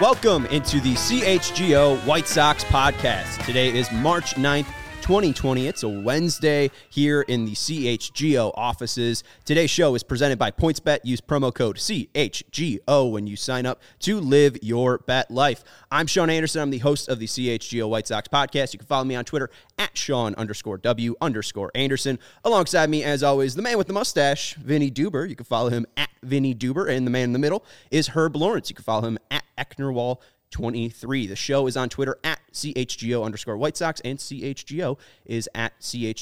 Welcome into the CHGO White Sox podcast. Today is March 9th, 2020. It's a Wednesday here in the CHGO offices. Today's show is presented by PointsBet. Use promo code CHGO when you sign up to live your bet life. I'm Sean Anderson. I'm the host of the CHGO White Sox podcast. You can follow me on Twitter at Sean_W_Anderson. Alongside me, as always, the man with the mustache, Vinny Duber. You can follow him at Vinny Duber. And the man in the middle is Herb Lawrence. You can follow him at Ecknerwall23. The show is on Twitter at CHGO_White Sox, and CHGO is at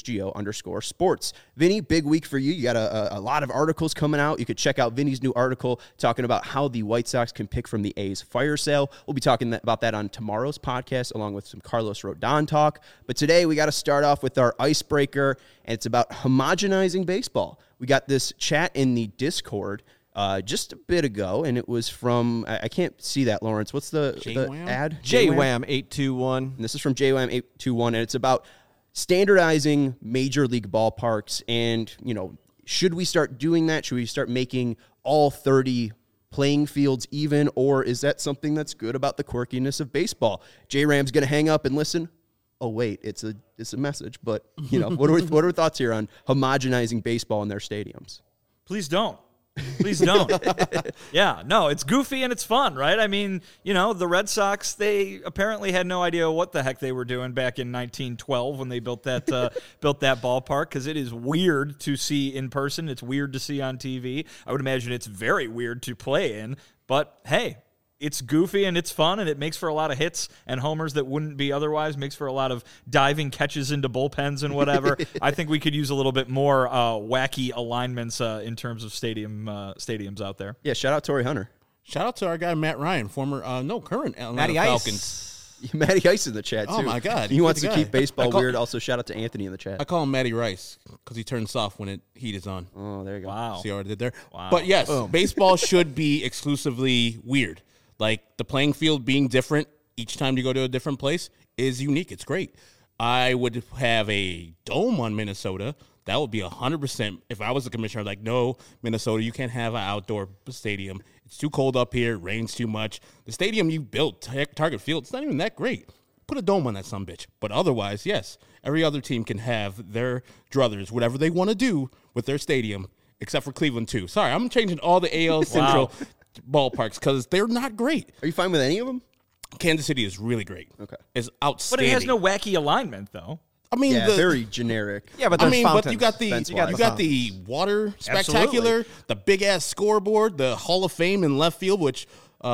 CHGO_sports. Vinny, big week for you. You got a lot of articles coming out. You could check out Vinny's new article talking about how the White Sox can pick from the A's fire sale. We'll be talking about that on tomorrow's podcast, along with some Carlos Rodon talk. But today we got to start off with our icebreaker, and it's about homogenizing baseball. We got this chat in the Discord just a bit ago, and it was from, I can't see that, Lawrence. What's the ad? JWAM821. And this is from JWAM821, and it's about standardizing major league ballparks. And, you know, should we start doing that? Should we start making all 30 playing fields even, or is that something that's good about the quirkiness of baseball? JRAM's going to hang up and listen. Oh, wait, it's a message. But, you know, what are thoughts here on homogenizing baseball in their stadiums? Please don't. Please don't. Yeah, no, it's goofy and it's fun, right? I mean, you know, the Red Sox, they apparently had no idea what the heck they were doing back in 1912 when they built that ballpark, because it is weird to see in person. It's weird to see on TV. I would imagine it's very weird to play in, but hey, it's goofy and it's fun, and it makes for a lot of hits and homers that wouldn't be otherwise, makes for a lot of diving catches into bullpens and whatever. I think we could use a little bit more wacky alignments in terms of stadiums out there. Yeah, shout out Torrey Hunter. Shout out to our guy, Matt Ryan, current Atlanta Matty Falcons. Ice. Matty Ice in the chat, too. Oh, my God. He wants to keep baseball weird. Also, shout out to Anthony in the chat. I call him Matty Rice because he turns soft when heat is on. Oh, there you go. Wow. See what I did there? Wow. But yes, baseball should be exclusively weird. Like, the playing field being different each time you go to a different place is unique. It's great. I would have a dome on Minnesota. That would be 100%. If I was the commissioner, I'd like, no, Minnesota, you can't have an outdoor stadium. It's too cold up here. It rains too much. The stadium you built, Target Field, it's not even that great. Put a dome on that sumbitch. But otherwise, yes, every other team can have their druthers, whatever they want to do with their stadium, except for Cleveland, too. Sorry, I'm changing all the AL Central ballparks because they're not great. Are you fine with any of them? Kansas City is really great. Okay. It's outstanding. But it has no wacky alignment, though. I mean, Yeah, very generic. Yeah, but there's fountains. but you got the Fence-wise. water spectacular, the big ass scoreboard, the Hall of Fame in left field, which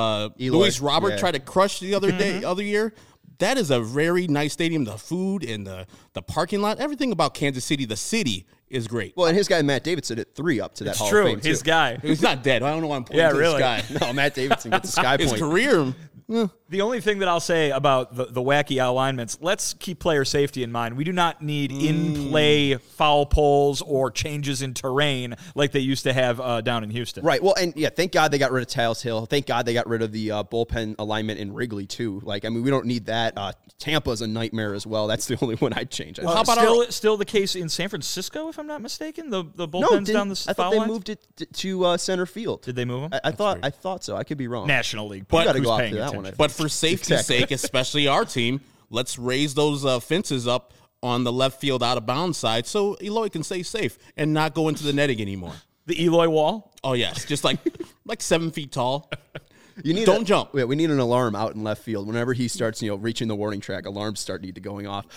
Luis Robert tried to crush the other year. That is a very nice stadium. The food and the parking lot, everything about Kansas City, the city, is great. Well, and his guy Matt Davidson hit 3 up to that It's Hall true. of Fame, His too. guy. He's not dead. I don't know why I'm pointing Yeah, to really. this guy. No, Matt Davidson gets a sky His point. career. The only thing that I'll say about the wacky alignments, let's keep player safety in mind. We do not need in-play foul poles or changes in terrain like they used to have down in Houston. Right. Well, and yeah, thank God they got rid of Tiles Hill. Thank God they got rid of the bullpen alignment in Wrigley, too. Like, I mean, we don't need that. Tampa's a nightmare as well. That's the only one I'd change. How about Still the case in San Francisco, if I'm not mistaken? The no, bullpens down the I foul thought they lines? moved it to center field. Did they move them? I thought so. I could be wrong. National League. But got to who's go off paying to that attention? one. I think. But for safety's sake, especially our team, let's raise those fences up on the left field out of bounds side so Eloy can stay safe and not go into the netting anymore. The Eloy wall? Oh, yes. Just like 7 feet tall. You need Don't jump. Yeah, we need an alarm out in left field. Whenever he starts, reaching the warning track, alarms need to going off.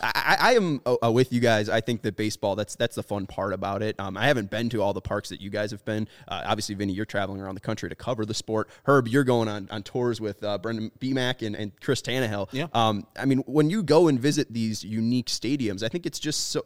I am with you guys. I think that baseball, that's the fun part about it. I haven't been to all the parks that you guys have been. Obviously, Vinny, you're traveling around the country to cover the sport. Herb, you're going on tours with Brendan Beemack and Chris Tannehill. Yeah. I mean, when you go and visit these unique stadiums, I think it's just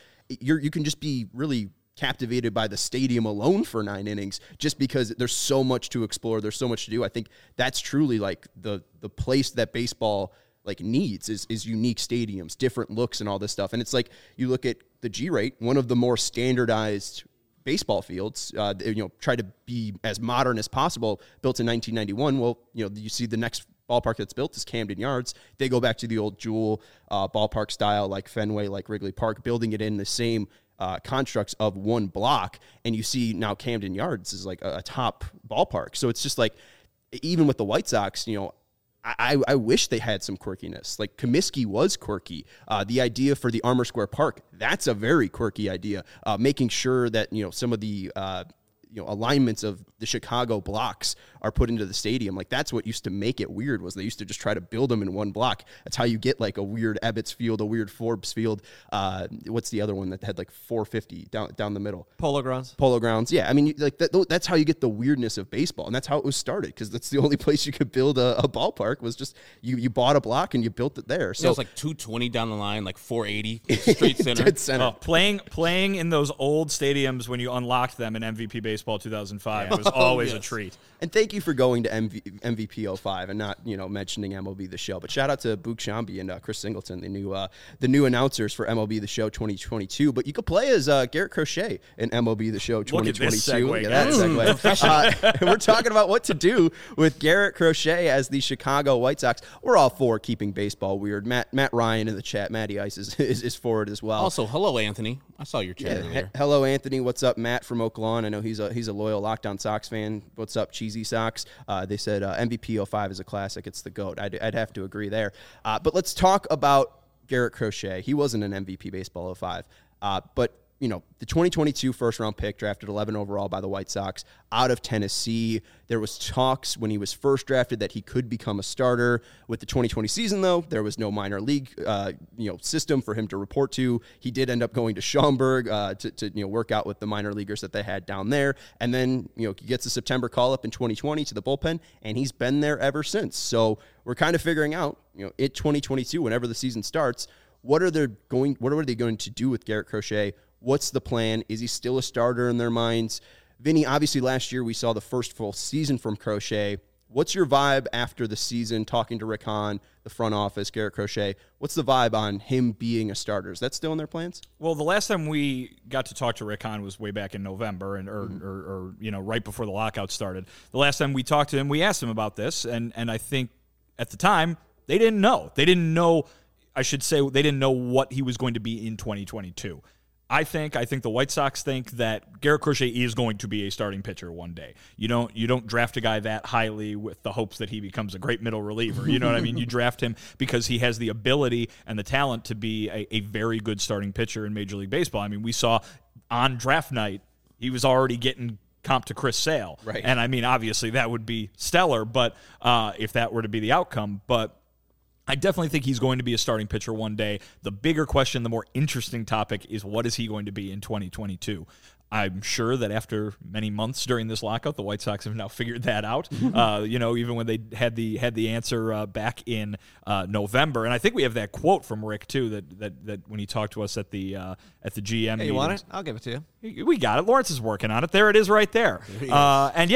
you can just be really captivated by the stadium alone for 9 innings just because there's so much to explore. There's so much to do. I think that's truly like the place that baseball like needs is unique stadiums, different looks and all this stuff. And it's like you look at the G-Rate, one of the more standardized baseball fields, try to be as modern as possible, built in 1991. Well, you see the next ballpark that's built is Camden Yards. They go back to the old Jewel ballpark style, like Fenway, like Wrigley Park, building it in the same constructs of one block, and you see now Camden Yards is like a top ballpark. So it's just like, even with the White Sox, I wish they had some quirkiness. Like Comiskey was quirky. The idea for the Armour Square Park, that's a very quirky idea. Making sure that, some of the alignments of the Chicago blocks are put into the stadium. Like that's what used to make it weird, was they used to just try to build them in one block. That's how you get like a weird Ebbets Field, a weird Forbes Field. What's the other one that had like 450 down the middle? Polo Grounds. Polo Grounds. Yeah. I mean, like that's how you get the weirdness of baseball. And that's how it was started, because that's the only place you could build a ballpark, was just you bought a block and you built it there. So it was like 220 down the line, like 480 straight center. Dead center. Playing in those old stadiums when you unlocked them in MVP Baseball 2005 was always a treat. And thank you for going to MVP 05 and not, mentioning MLB The Show. But shout out to Boog Shambi and Chris Singleton, the new announcers for MLB The Show 2022. But you could play as Garrett Crochet in MLB The Show 2022. Look at this segue, that segue. We're talking about what to do with Garrett Crochet as the Chicago White Sox. We're all for keeping baseball weird. Matt Ryan in the chat, Matty Ice is for it as well. Also, hello, Anthony. I saw your chat earlier. Hello, Anthony. What's up, Matt from Oak Lawn? I know he's a loyal Lockdown Sox fan. What's up, Cheesy Sox? They said MVP 05 is a classic. It's the GOAT. I'd have to agree there. But let's talk about Garrett Crochet. He wasn't an MVP Baseball 05. But the 2022 first-round pick, drafted 11 overall by the White Sox, out of Tennessee. There was talks when he was first drafted that he could become a starter. With the 2020 season, though, there was no minor league, system for him to report to. He did end up going to Schaumburg to work out with the minor leaguers that they had down there. And then, he gets a September call-up in 2020 to the bullpen, and he's been there ever since. So we're kind of figuring out, in 2022, whenever the season starts, what are they going to do with Garrett Crochet? What's the plan? Is he still a starter in their minds? Vinny, obviously last year we saw the first full season from Crochet. What's your vibe after the season, talking to Rick Hahn, the front office, Garrett Crochet? What's the vibe on him being a starter? Is that still in their plans? Well, the last time we got to talk to Rick Hahn was way back in November, or right before the lockout started. The last time we talked to him, we asked him about this, and I think at the time they didn't know. They didn't know what he was going to be in 2022. I think the White Sox think that Garrett Crochet is going to be a starting pitcher one day. You don't draft a guy that highly with the hopes that he becomes a great middle reliever. You know what I mean? You draft him because he has the ability and the talent to be a very good starting pitcher in Major League Baseball. I mean, we saw on draft night, he was already getting comp to Chris Sale. Right. And I mean, obviously that would be stellar, but if that were to be the outcome, but I definitely think he's going to be a starting pitcher one day. The bigger question, the more interesting topic, is what is he going to be in 2022? I'm sure that after many months during this lockout, the White Sox have now figured that out. Even when they had the answer back in November, and I think we have that quote from Rick too. That when he talked to us at the GM. Hey, you want it? I'll give it to you. We got it. Lawrence is working on it. There it is, right there. And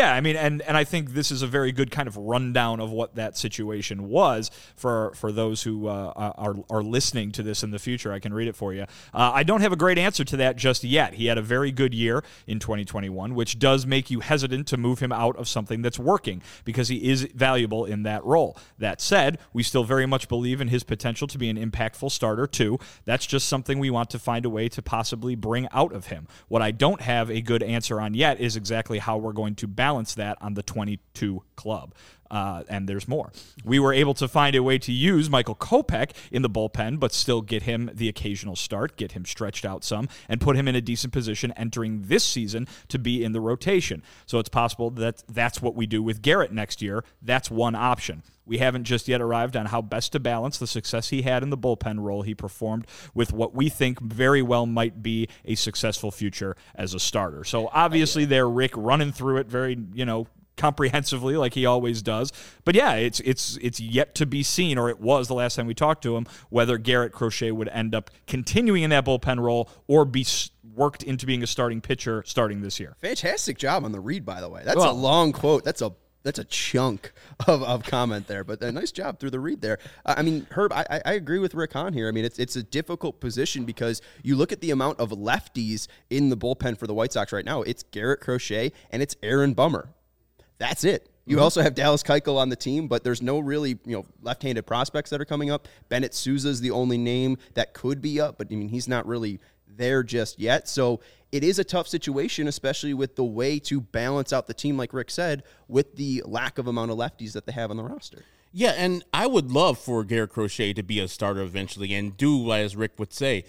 I think this is a very good kind of rundown of what that situation was for those who are listening to this in the future. I can read it for you. I don't have a great answer to that just yet. He had a very good year in 2021, which does make you hesitant to move him out of something that's working because he is valuable in that role. That said, we still very much believe in his potential to be an impactful starter too. That's just something we want to find a way to possibly bring out of him. What I don't have a good answer on yet is exactly how we're going to balance that on the 22 club. And there's more. We were able to find a way to use Michael Kopech in the bullpen, but still get him the occasional start, get him stretched out some, and put him in a decent position entering this season to be in the rotation. So it's possible that that's what we do with Garrett next year. That's one option. We haven't just yet arrived on how best to balance the success he had in the bullpen role he performed with what we think very well might be a successful future as a starter. So obviously there, Rick running through it very, comprehensively like he always does. But yeah, it's yet to be seen, or it was the last time we talked to him, whether Garrett Crochet would end up continuing in that bullpen role or be worked into being a starting pitcher starting this year. Fantastic job on the read, by the way. That's a long quote. That's a chunk of comment there, but a nice job through the read there. I mean, Herb, I agree with Rick Hahn here. I mean, it's a difficult position because you look at the amount of lefties in the bullpen for the White Sox right now. It's Garrett Crochet and it's Aaron Bummer. That's it. You also have Dallas Keuchel on the team, but there's no really, left-handed prospects that are coming up. Bennett Sousa is the only name that could be up, but I mean, he's not really there just yet. So it is a tough situation, especially with the way to balance out the team, like Rick said, with the lack of amount of lefties that they have on the roster. Yeah, and I would love for Garrett Crochet to be a starter eventually and do, as Rick would say,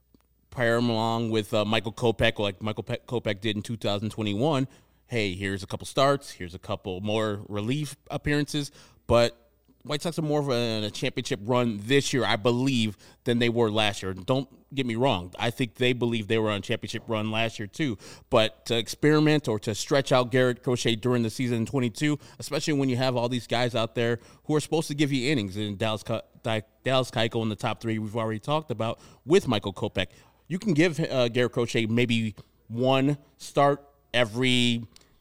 pair him along with Michael Kopech, like Michael Kopech did in 2021. Hey, here's a couple starts, here's a couple more relief appearances, but White Sox are more of a championship run this year, I believe, than they were last year. Don't get me wrong. I think they believe they were on a championship run last year too. But to experiment or to stretch out Garrett Crochet during the season in 22, especially when you have all these guys out there who are supposed to give you innings, in Dallas Keuchel in the top three we've already talked about with Michael Kopech, you can give Garrett Crochet maybe one start every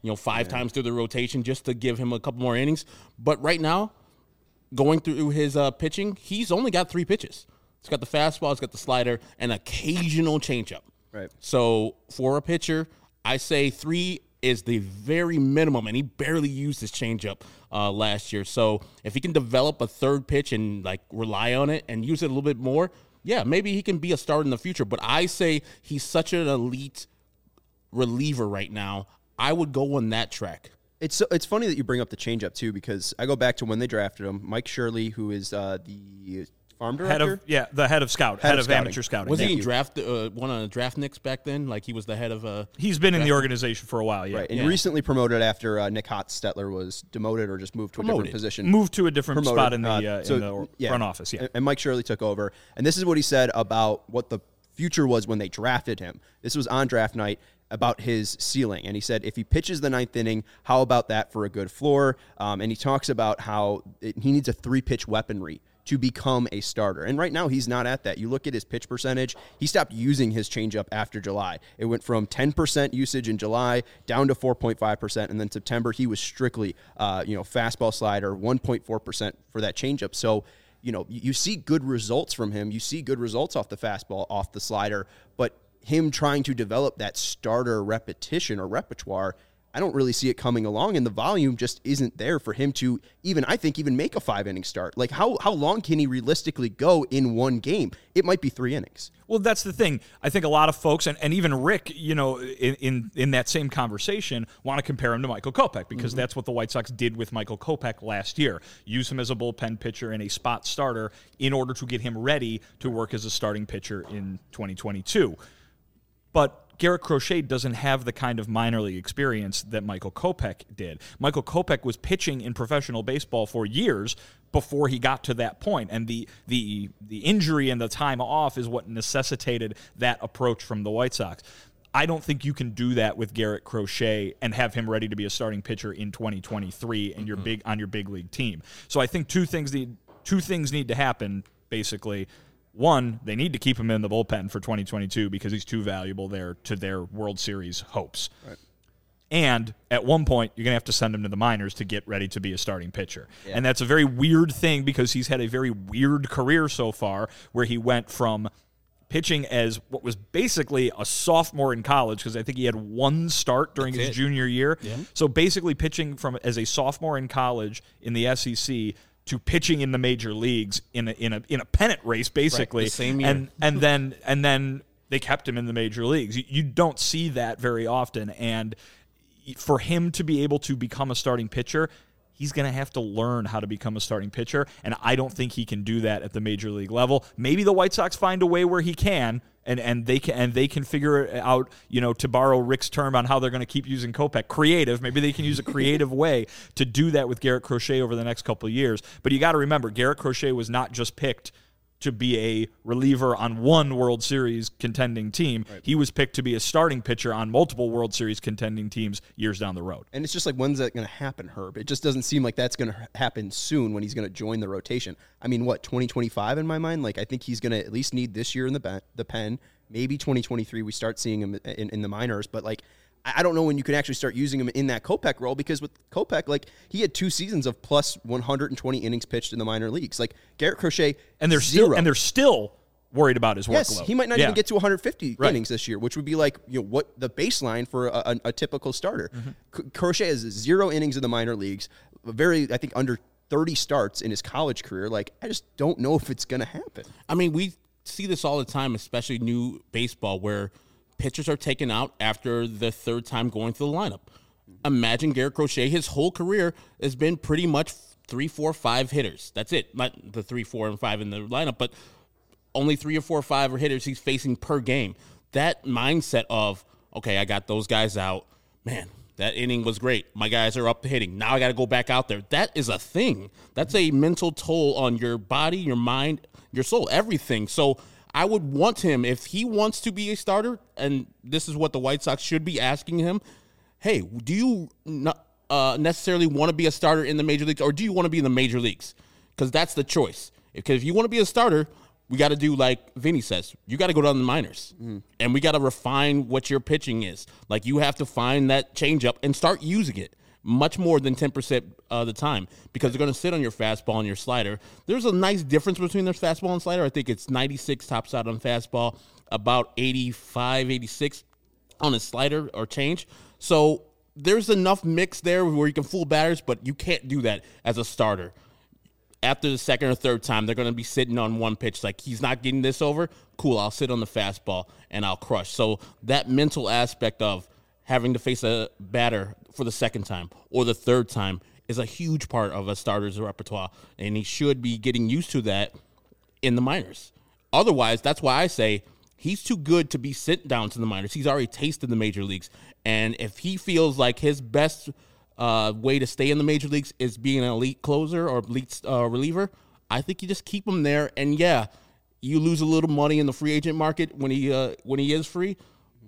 5 times through the rotation just to give him a couple more innings. But right now, going through his pitching, he's only got 3 pitches. He's got the fastball, he's got the slider, and occasional changeup. Right. So for a pitcher, I say 3 is the very minimum, and he barely used his changeup last year. So if he can develop a third pitch and rely on it and use it a little bit more, yeah, maybe he can be a starter in the future. But I say he's such an elite reliever right now. I would go on that track. It's funny that you bring up the changeup too, because I go back to when they drafted him. Mike Shirley, who is the farm director, the head of scouting. amateur scouting. Was he in one of the draftniks back then? Like he was the head of He's been in the organization for a while, yeah. Right, and recently promoted after Nick Hotstetler was demoted or just moved to a different position. Moved to a different spot in the front office, yeah. And Mike Shirley took over. And this is what he said about what the future was when they drafted him. This was on draft night, about his ceiling. And he said, if he pitches the 9th inning, how about that for a good floor? And he talks about how he needs a 3-pitch weaponry to become a starter. And right now, he's not at that. You look at his pitch percentage, he stopped using his changeup after July. It went from 10% usage in July down to 4.5%. And then September, he was strictly, fastball slider, 1.4% for that changeup. So, you see good results from him. You see good results off the fastball, off the slider, but him trying to develop that starter repetition or repertoire, I don't really see it coming along, and the volume just isn't there for him to even make a 5-inning start. Like, how long can he realistically go in one game? It might be 3 innings. Well, that's the thing. I think a lot of folks, and even Rick, in that same conversation, want to compare him to Michael Kopech, because that's what the White Sox did with Michael Kopech last year. Use him as a bullpen pitcher and a spot starter in order to get him ready to work as a starting pitcher in 2022. But Garrett Crochet doesn't have the kind of minor league experience that Michael Kopech did. Michael Kopech was pitching in professional baseball for years before he got to that point, and the injury and the time off is what necessitated that approach from the White Sox. I don't think you can do that with Garrett Crochet and have him ready to be a starting pitcher in 2023 and you're on your big league team. So I think two things need to happen, basically. One, they need to keep him in the bullpen for 2022 because he's too valuable there to their World Series hopes. Right. And at one point, you're going to have to send him to the minors to get ready to be a starting pitcher. Yeah. And that's a very weird thing because he's had a very weird career so far where he went from pitching as what was basically a sophomore in college, because I think he had 1 start during his junior year. Yeah. So basically pitching as a sophomore in college in the SEC to pitching in the major leagues in a pennant race, basically, right, the same year. and then they kept him in the major leagues. You don't see that very often, and for him to be able to become a starting pitcher, he's going to have to learn how to become a starting pitcher, and I don't think he can do that at the major league level. Maybe the White Sox find a way where he can. And they can figure it out, to borrow Rick's term on how they're going to keep using Kopech, creative. Maybe they can use a creative way to do that with Garrett Crochet over the next couple of years. But you got to remember, Garrett Crochet was not just picked to be a reliever on one World Series contending team. Right. He was picked to be a starting pitcher on multiple World Series contending teams years down the road. And it's just like, when's that going to happen, Herb? It just doesn't seem like that's going to happen soon when he's going to join the rotation. I mean, 2025 in my mind? Like, I think he's going to at least need this year in the pen. Maybe 2023 we start seeing him in the minors. But, like, I don't know when you can actually start using him in that Kopech role, because with Kopech, like, he had 2 seasons of plus 120 innings pitched in the minor leagues. Like, Garrett Crochet, and they're still worried about his workload. Yes, he might not even get to 150 innings this year, which would be like, what the baseline for a typical starter. Mm-hmm. Crochet has 0 innings in the minor leagues, I think under 30 starts in his college career. Like, I just don't know if it's going to happen. I mean, we see this all the time, especially new baseball, where pitchers are taken out after the 3rd time going through the lineup. Imagine Garrett Crochet, his whole career has been pretty much 3, 4, 5 hitters. That's it. Not the 3, 4, and 5 in the lineup, but only 3 or 4 or 5 hitters he's facing per game. That mindset of, okay, I got those guys out. Man, that inning was great. My guys are up to hitting. Now I got to go back out there. That is a thing. That's a mental toll on your body, your mind, your soul, everything. So I would want him, if he wants to be a starter, and this is what the White Sox should be asking him, hey, do you not necessarily want to be a starter in the major leagues, or do you want to be in the major leagues? Because that's the choice. Because if you want to be a starter, we got to do like Vinny says. You got to go down to the minors, and we got to refine what your pitching is. Like, you have to find that changeup and start using it much more than 10% of the time, because they're going to sit on your fastball and your slider. There's a nice difference between their fastball and slider. I think it's 96 tops out on fastball, about 85, 86 on his slider or change. So there's enough mix there where you can fool batters, but you can't do that as a starter. After the second or third time, they're going to be sitting on one pitch. Like, he's not getting this over. Cool, I'll sit on the fastball and I'll crush. So that mental aspect of having to face a batter for the second time or the third time is a huge part of a starter's repertoire, and he should be getting used to that in the minors. Otherwise, that's why I say he's too good to be sent down to the minors. He's already tasted the major leagues, and if he feels like his best way to stay in the major leagues is being an elite closer or elite reliever, I think you just keep him there. And yeah, you lose a little money in the free agent market when he is free,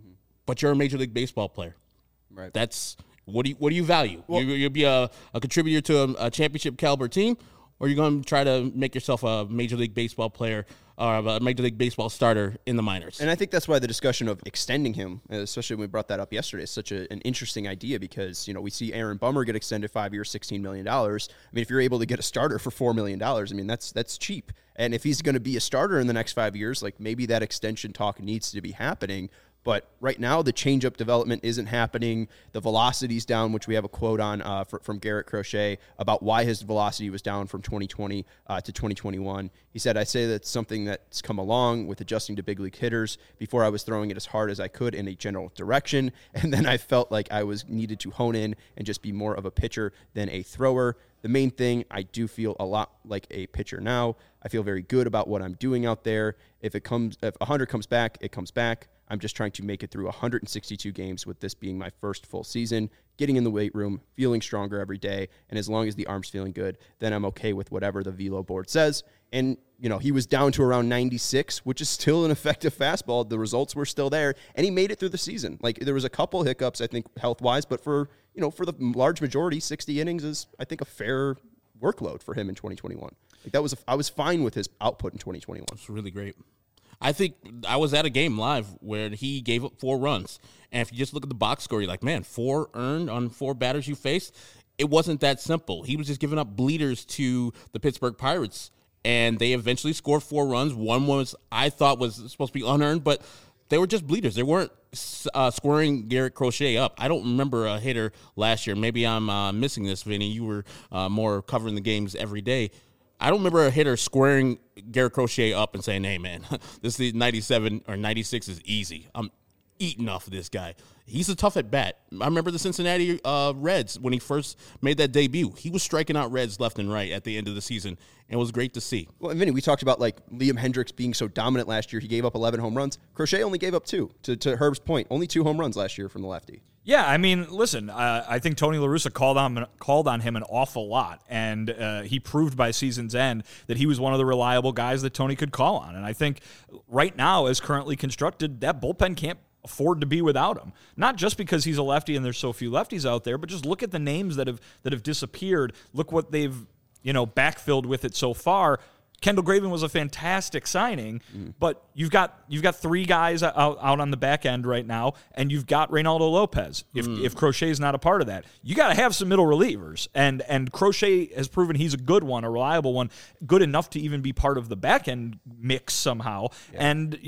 but you're a Major League Baseball player. Right. That's what do you value? Well, You'll be a contributor to a championship caliber team, or you're going to try to make yourself a Major League Baseball player or a Major League Baseball starter in the minors. And I think that's why the discussion of extending him, especially when we brought that up yesterday, is such an interesting idea, because, we see Aaron Bummer get extended 5 years, $16 million. I mean, if you're able to get a starter for $4 million, I mean, that's cheap. And if he's going to be a starter in the next 5 years, like, maybe that extension talk needs to be happening. But right now, the changeup development isn't happening. The velocity's down, which we have a quote on from Garrett Crochet about why his velocity was down from 2020 to 2021. He said, I say that's something that's come along with adjusting to big league hitters. Before, I was throwing it as hard as I could in a general direction, and then I felt like I was needed to hone in and just be more of a pitcher than a thrower. The main thing, I do feel a lot like a pitcher now. I feel very good about what I'm doing out there. If 100 comes back, it comes back. I'm just trying to make it through 162 games, with this being my first full season, getting in the weight room, feeling stronger every day, and as long as the arm's feeling good, then I'm okay with whatever the velo board says. And, he was down to around 96, which is still an effective fastball. The results were still there, and he made it through the season. Like, there was a couple hiccups, I think, health-wise, but for the large majority, 60 innings is, I think, a fair workload for him in 2021. Like, I was fine with his output in 2021. It's really great. I think I was at a game live where he gave up 4 runs. And if you just look at the box score, you're like, man, 4 earned on 4 batters you faced? It wasn't that simple. He was just giving up bleeders to the Pittsburgh Pirates, and they eventually scored 4 runs. One was, I thought, was supposed to be unearned, but they were just bleeders. They weren't squaring Garrett Crochet up. I don't remember a hitter last year. Maybe I'm missing this, Vinny. You were more covering the games every day. I don't remember a hitter squaring Garrett Crochet up and saying, hey, man, this is 97 or 96 is easy. I'm eating off of this guy. He's a tough at bat. I remember the Cincinnati Reds when he first made that debut. He was striking out Reds left and right at the end of the season, and it was great to see. Well, and Vinny, we talked about like Liam Hendricks being so dominant last year. He gave up 11 home runs. Crochet only gave up 2. To Herb's point, only 2 home runs last year from the lefty. Yeah, I mean, listen, I think Tony La Russa called on him an awful lot, and he proved by season's end that he was one of the reliable guys that Tony could call on. And I think right now, as currently constructed, that bullpen can't afford to be without him. Not just because he's a lefty and there's so few lefties out there, but just look at the names that have disappeared. Look what they've backfilled with it so far. Kendall Graven was a fantastic signing, but you've got 3 guys out on the back end right now, and you've got Reynaldo Lopez. If Crochet's not a part of that, you got to have some middle relievers, and Crochet has proven he's a good one, a reliable one, good enough to even be part of the back end mix somehow. Yeah. And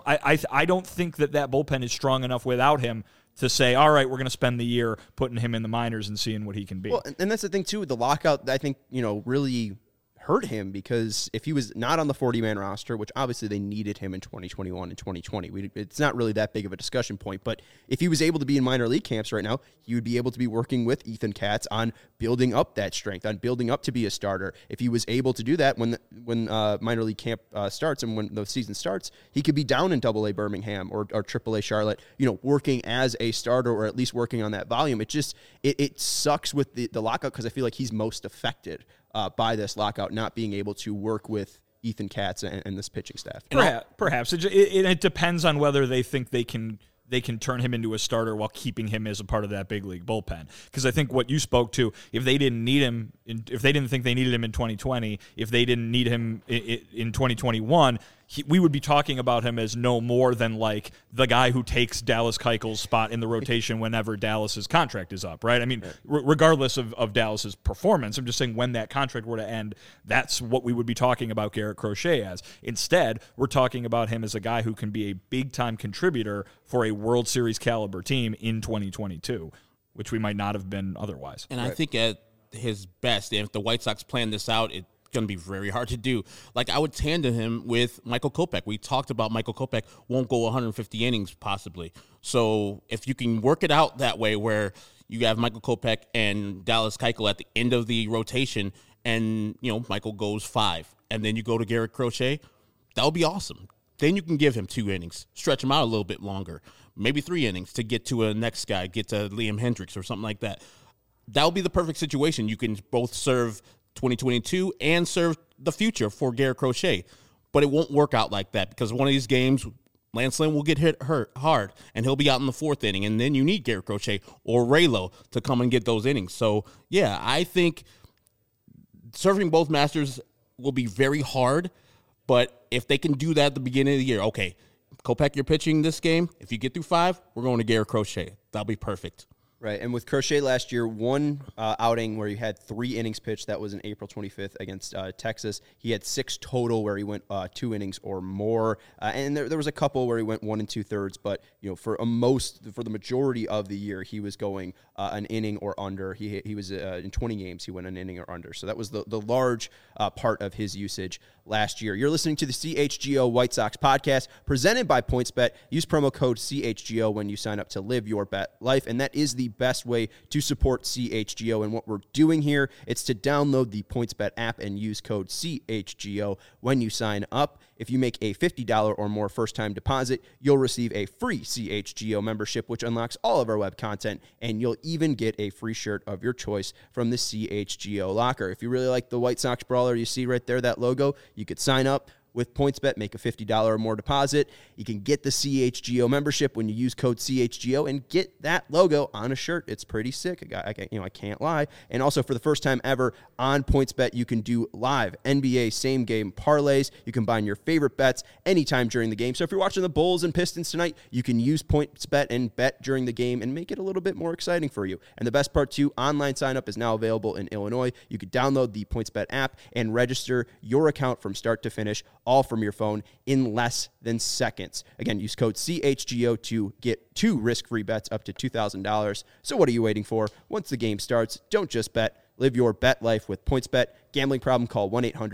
I don't think that bullpen is strong enough without him to say, all right, we're going to spend the year putting him in the minors and seeing what he can be. Well, and that's the thing too. The lockout, I think, really hurt him, because if he was not on the 40-man roster, which obviously they needed him in 2021 and 2020, it's not really that big of a discussion point, but if he was able to be in minor league camps right now, he would be able to be working with Ethan Katz on building up that strength, on building up to be a starter. If he was able to do that when minor league camp starts and when the season starts, he could be down in AA Birmingham or AAA Charlotte, working as a starter, or at least working on that volume. It sucks with the lockout, because I feel like he's most affected by this lockout, not being able to work with Ethan Katz and this pitching staff. Perhaps. It depends on whether they think they can turn him into a starter while keeping him as a part of that big league bullpen. Because I think what you spoke to, if they didn't need him, if they didn't think they needed him in 2020, if they didn't need him in 2021, we would be talking about him as no more than like the guy who takes Dallas Keuchel's spot in the rotation whenever Dallas's contract is up, right? I mean, regardless of Dallas's performance, I'm just saying when that contract were to end, that's what we would be talking about Garrett Crochet as. Instead, we're talking about him as a guy who can be a big-time contributor for a World Series caliber team in 2022, which we might not have been otherwise. And I think at his best, if the White Sox plan this out, it's going to be very hard to do. Like, I would tandem him with Michael Kopech. We talked about Michael Kopech won't go 150 innings possibly. So if you can work it out that way, where you have Michael Kopech and Dallas Keuchel at the end of the rotation, and Michael goes 5, and then you go to Garrett Crochet, that would be awesome. Then you can give him 2 innings, stretch him out a little bit longer, maybe 3 innings to get to a next guy, get to Liam Hendricks or something like that. That would be the perfect situation. You can both serve 2022 and serve the future for Garrett Crochet. But it won't work out like that, because one of these games, Lance Lynn will get hurt hard, and he'll be out in the 4th inning, and then you need Garrett Crochet or Raylo to come and get those innings. So, yeah, I think serving both masters will be very hard, but if they can do that at the beginning of the year, okay, Kopech, you're pitching this game. If you get through 5, we're going to Garrett Crochet. That'll be perfect. Right, and with Crochet last year, one outing where he had 3 innings pitched, that was in April 25th against Texas. He had 6 total where he went 2 innings or more, and there was a couple where he went 1 2/3. But for the majority of the year, he was going an inning or under. He was in 20 games, he went an inning or under. So that was the large part of his usage last year. You're listening to the CHGO White Sox podcast presented by PointsBet. Use promo code CHGO when you sign up to live your bet life, and that is the best way to support CHGO. And what we're doing here, it's to download the PointsBet app and use code CHGO when you sign up. If you make a $50 or more first-time deposit, you'll receive a free CHGO membership, which unlocks all of our web content, and you'll even get a free shirt of your choice from the CHGO locker. If you really like the White Sox brawler you see right there, that logo, you could sign up with PointsBet, make a $50 or more deposit. You can get the CHGO membership when you use code CHGO and get that logo on a shirt. It's pretty sick. I can't lie. And also, for the first time ever on PointsBet, you can do live NBA same game parlays. You can combine your favorite bets anytime during the game. So if you're watching the Bulls and Pistons tonight, you can use PointsBet and bet during the game and make it a little bit more exciting for you. And the best part too, online sign up is now available in Illinois. You can download the PointsBet app and register your account from start to finish, all from your phone in less than seconds. Again, use code CHGO to get 2 risk-free bets up to $2,000. So what are you waiting for? Once the game starts, don't just bet. Live your bet life with PointsBet. Gambling problem, call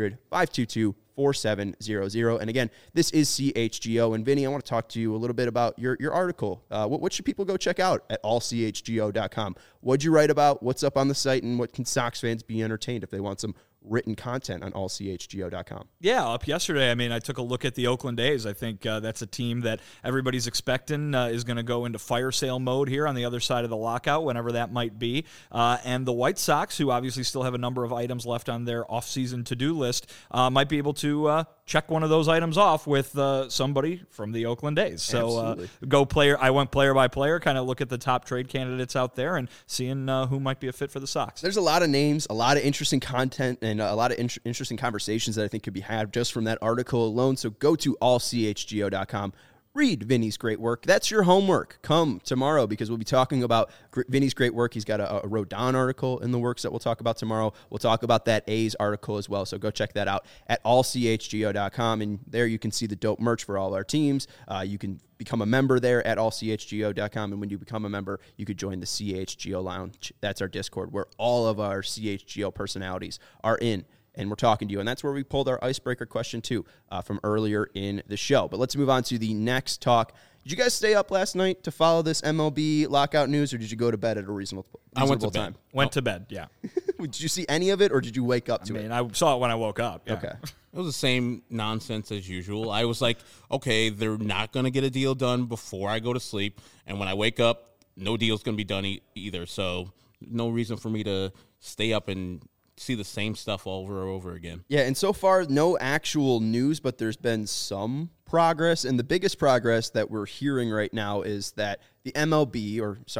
1-800-522-4700. And again, this is CHGO. And Vinny, I want to talk to you a little bit about your article. What should people go check out at allchgo.com? What'd you write about? What's up on the site? And what can Sox fans be entertained if they want some written content on allchgo.com? Yeah, up yesterday, I took a look at the Oakland A's. I think that's a team that everybody's expecting is going to go into fire sale mode here on the other side of the lockout, whenever that might be. And the White Sox, who obviously still have a number of items left on their offseason to-do list, might be able to check one of those items off with somebody from the Oakland A's. So I went player by player, kind of look at the top trade candidates out there and seeing who might be a fit for the Sox. There's a lot of names, a lot of interesting content, and a lot of interesting conversations that I think could be had just from that article alone. So go to allchgo.com. Read Vinny's great work. That's your homework. Come tomorrow, because we'll be talking about Vinny's great work. He's got a Rodon article in the works that we'll talk about tomorrow. We'll talk about that A's article as well. So go check that out at allchgo.com. And there you can see the dope merch for all our teams. You can become a member there at allchgo.com. And when you become a member, you could join the CHGO Lounge. That's our Discord where all of our CHGO personalities are in and we're talking to you. And that's where we pulled our icebreaker question, too, from earlier in the show. But let's move on to the next talk. Did you guys stay up last night to follow this MLB lockout news, or did you go to bed at a reasonable I went to time? bed. Went to bed, yeah. Did you see any of it, or did you wake up to it? I saw it when I woke up. Yeah. Okay. It was the same nonsense as usual. I was like, okay, they're not going to get a deal done before I go to sleep. And when I wake up, no deal's going to be done either. So no reason for me to stay up and see the same stuff over and over again. Yeah, and so far, no actual news, but there's been some progress. And the biggest progress that we're hearing right now is that the MLB,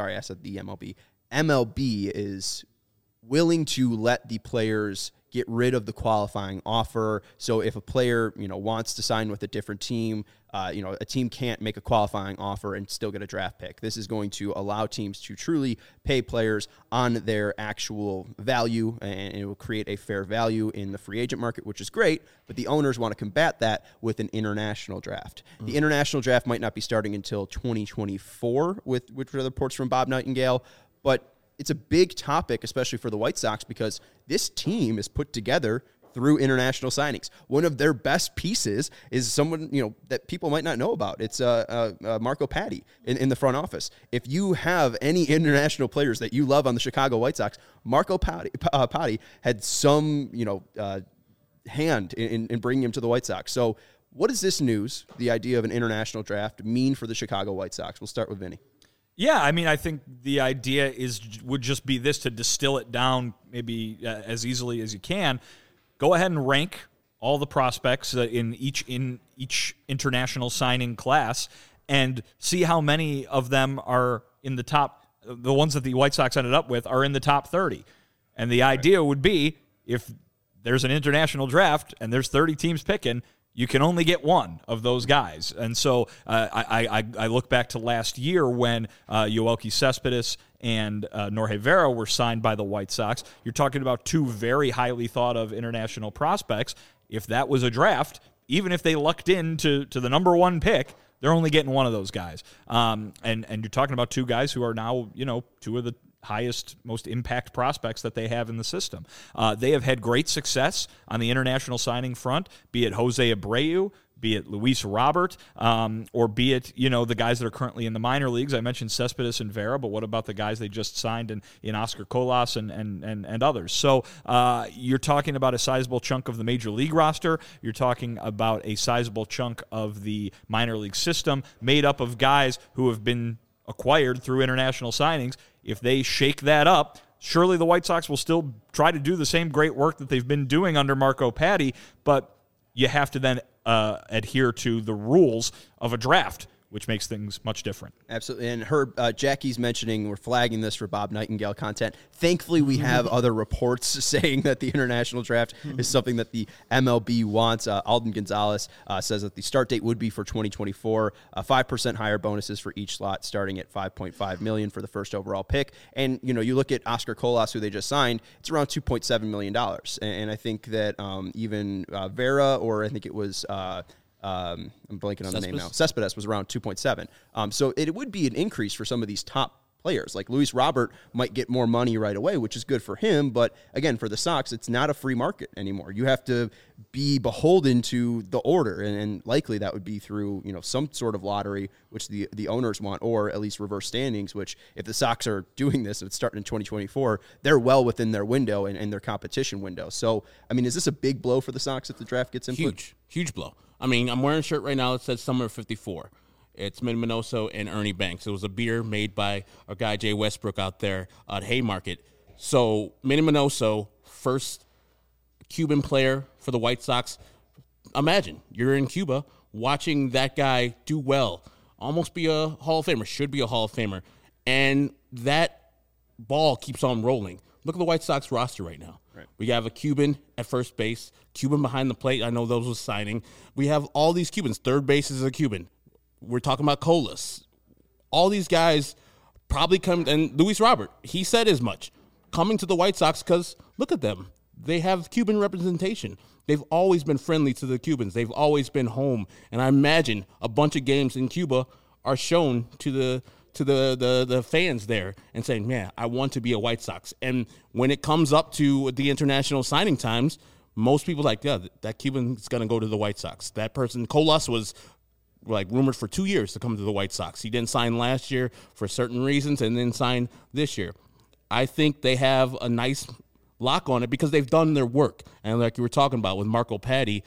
MLB is willing to let the players get rid of the qualifying offer. So if a player, wants to sign with a different team, a team can't make a qualifying offer and still get a draft pick. This is going to allow teams to truly pay players on their actual value, and it will create a fair value in the free agent market, which is great, but the owners want to combat that with an international draft. The international draft might not be starting until 2024, which are the reports from Bob Nightingale, but it's a big topic, especially for the White Sox, because this team is put together through international signings. One of their best pieces is someone, that people might not know about. It's Marco Patti in the front office. If you have any international players that you love on the Chicago White Sox, Marco Patti had some, hand in bringing him to the White Sox. So what does this news, the idea of an international draft, mean for the Chicago White Sox? We'll start with Vinny. Yeah, I think the idea would just be this, to distill it down maybe as easily as you can. Go ahead and rank all the prospects in each international signing class and see how many of them are in the top. The ones that the White Sox ended up with are in the top 30. And the idea would be, if there's an international draft and there's 30 teams picking, you can only get one of those guys. And so I look back to last year when Yoelqui Cespedes and Norge Vera were signed by the White Sox. You're talking about two very highly thought of international prospects. If that was a draft, even if they lucked into the number one pick, they're only getting one of those guys. And you're talking about two guys who are now, two of the highest, most impact prospects that they have in the system. They have had great success on the international signing front, be it Jose Abreu, be it Luis Robert, or be it, the guys that are currently in the minor leagues. I mentioned Cespedes and Vera, but what about the guys they just signed in Oscar Colas and others? So you're talking about a sizable chunk of the major league roster. You're talking about a sizable chunk of the minor league system made up of guys who have been acquired through international signings. If they shake that up, surely the White Sox will still try to do the same great work that they've been doing under Marco Patti, but you have to then adhere to the rules of a draft, which makes things much different. Absolutely. And Herb, Jackie's mentioning, we're flagging this for Bob Nightingale content. Thankfully, we have other reports saying that the international draft is something that the MLB wants. Alden Gonzalez says that the start date would be for 2024, 5% higher bonuses for each slot, starting at $5.5 million for the first overall pick. And, you look at Oscar Colas, who they just signed, it's around $2.7 million. And I think that even Vera, or I think it was... I'm blanking on the name now. Cespedes was around 2.7. So it would be an increase for some of these top players. Like Luis Robert might get more money right away, which is good for him. But again, for the Sox, it's not a free market anymore. You have to be beholden to the order, and likely that would be through some sort of lottery, which the owners want, or at least reverse standings. Which, if the Sox are doing this, if it's starting in 2024, they're well within their window and their competition window. So, is this a big blow for the Sox if the draft gets input? Huge blow. I'm wearing a shirt right now that says Summer 54. It's Minnie Minoso and Ernie Banks. It was a beer made by our guy Jay Westbrook out there at Haymarket. So Minnie Minoso, first Cuban player for the White Sox. Imagine you're in Cuba watching that guy do well, almost be a Hall of Famer, should be a Hall of Famer, and that ball keeps on rolling. Look at the White Sox roster right now. Right. We have a Cuban at first base, Cuban behind the plate. I know those was signing. We have all these Cubans. Third base is a Cuban. We're talking about Colas. All these guys probably come, and Luis Robert, he said as much, coming to the White Sox because look at them. They have Cuban representation. They've always been friendly to the Cubans. They've always been home. And I imagine a bunch of games in Cuba are shown to the fans there and saying, man, I want to be a White Sox. And when it comes up to the international signing times, most people like, yeah, that Cuban's going to go to the White Sox. That person, Colas, was like rumored for 2 years to come to the White Sox. He didn't sign last year for certain reasons and then sign this year. I think they have a nice lock on it because they've done their work. And like you were talking about with Marco Patti,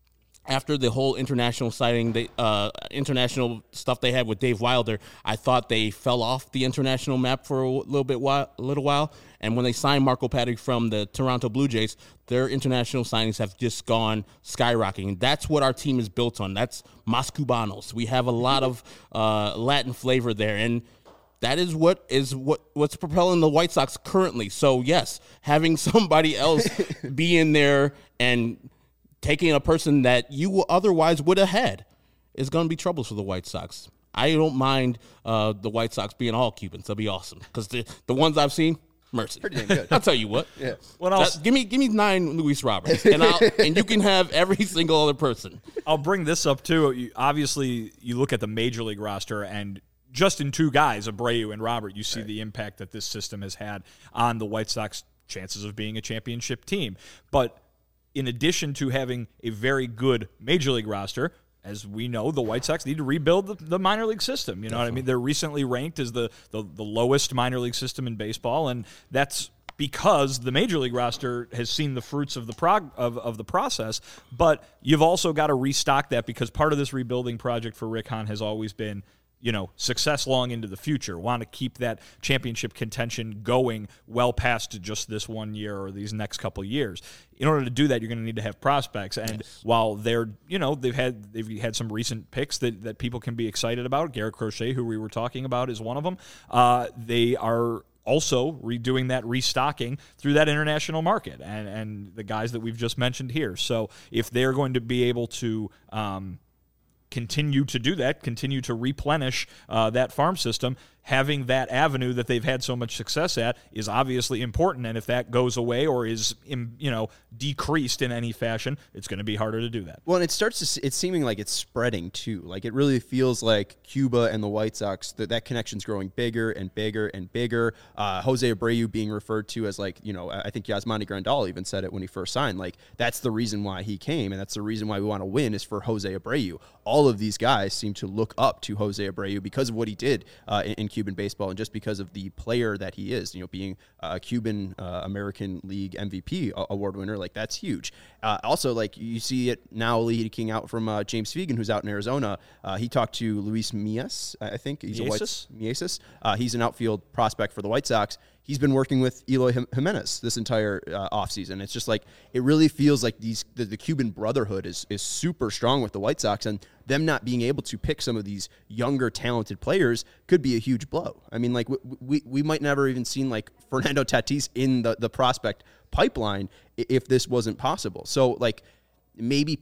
after the whole international signing, international stuff they had with Dave Wilder, I thought they fell off the international map for a little while. And when they signed Marco Patti from the Toronto Blue Jays, their international signings have just gone skyrocketing. That's what our team is built on. That's Mas Cubanos. We have a lot of Latin flavor there, and that is what's propelling the White Sox currently. So yes, having somebody else be in there and taking a person that you otherwise would have had is going to be trouble for the White Sox. I don't mind the White Sox being all Cubans. That'll be awesome because the ones I've seen, mercy. Pretty damn good. I'll tell you what. Yeah. What else? Give me 9 Luis Roberts, and you can have every single other person. I'll bring this up too. Obviously, you look at the major league roster, and just in 2 guys, Abreu and Robert, you see the impact that this system has had on the White Sox chances of being a championship team. But in addition to having a very good major league roster, as we know, the White Sox need to rebuild the minor league system. You know what I mean? They're recently ranked as the lowest minor league system in baseball, and that's because the major league roster has seen the fruits of the process. But you've also got to restock that because part of this rebuilding project for Rick Hahn has always been, success long into the future. Want to keep that championship contention going well past just this 1 year or these next couple years. In order to do that, you're going to need to have prospects. And while they're, they've had some recent picks that people can be excited about. Garrett Crochet, who we were talking about, is one of them. They are also redoing that restocking through that international market and the guys that we've just mentioned here. So if they're going to be able to continue to do that, continue to replenish that farm system, having that avenue that they've had so much success at is obviously important. And if that goes away or is, decreased in any fashion, it's going to be harder to do that. Well, and it's seeming like it's spreading too. Like it really feels like Cuba and the White Sox, that connection's growing bigger and bigger and bigger. Jose Abreu being referred to as I think Yasmani Grandal even said it when he first signed. Like that's the reason why he came, and that's the reason why we want to win is for Jose Abreu. All of these guys seem to look up to Jose Abreu because of what he did in Cuban baseball, and just because of the player that he is, being a Cuban American League MVP award winner, like that's huge. Also, like you see it now leaking out from James Fegan, who's out in Arizona. He talked to Luis Mias, I think. He's Mieses. He's an outfield prospect for the White Sox. He's been working with Eloy Jimenez this entire offseason. It's just like it really feels like the Cuban brotherhood is super strong with the White Sox, and them not being able to pick some of these younger, talented players could be a huge blow. I mean, like we might never even seen like Fernando Tatis in the prospect pipeline if this wasn't possible. So like maybe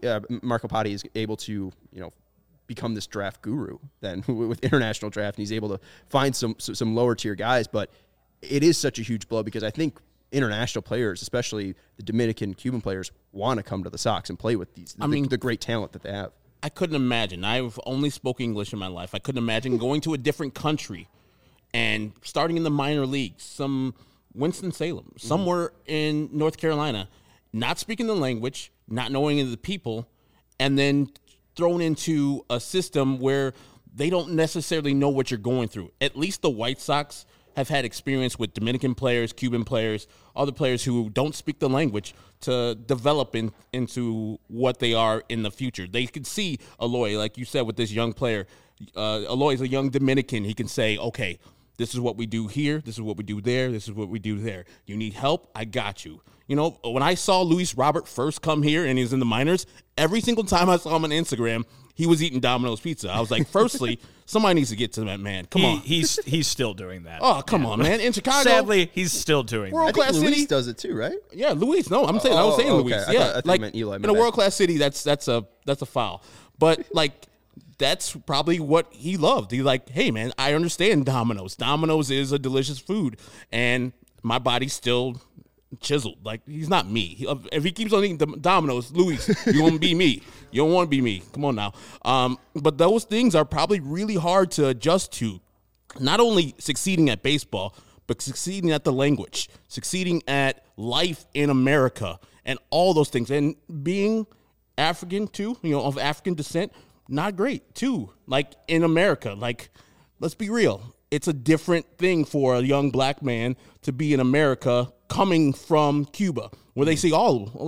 Marco Patti is able to become this draft guru then with international draft, and he's able to find some lower tier guys, but it is such a huge blow because I think international players, especially the Dominican, Cuban players, want to come to the Sox and play with the great talent that they have. I couldn't imagine. I've only spoke English in my life. I couldn't imagine going to a different country and starting in the minor leagues, some Winston-Salem, somewhere in North Carolina, not speaking the language, not knowing the people, and then thrown into a system where they don't necessarily know what you're going through. At least the White Sox have had experience with Dominican players, Cuban players, other players who don't speak the language to develop into what they are in the future. They could see Eloy, like you said, with this young player. Eloy is a young Dominican. He can say, okay, this is what we do here. This is what we do there. This is what we do there. You need help? I got you. When I saw Luis Robert first come here and he was in the minors, every single time I saw him on Instagram, he was eating Domino's pizza. I was like, firstly, somebody needs to get to that man. Come on. He's still doing that. Oh, come on, man. In Chicago. Sadly, he's still doing that. World-class city. Luis does it too, right? Yeah, Luis. No, I was saying okay. Luis. I Yeah, thought you meant Eli. In a world-class city, that's a foul. But like, that's probably what he loved. He's like, hey, man, I understand Domino's. Domino's is a delicious food, and my body's still chiseled. Like, he's not me. If he keeps on eating Domino's, Luis, you won't be me. You don't want to be me. Come on now. But those things are probably really hard to adjust to. Not only succeeding at baseball, but succeeding at the language, succeeding at life in America, and all those things. And being African too, of African descent, not great too. Like in America, like let's be real. It's a different thing for a young black man to be in America coming from Cuba, where they see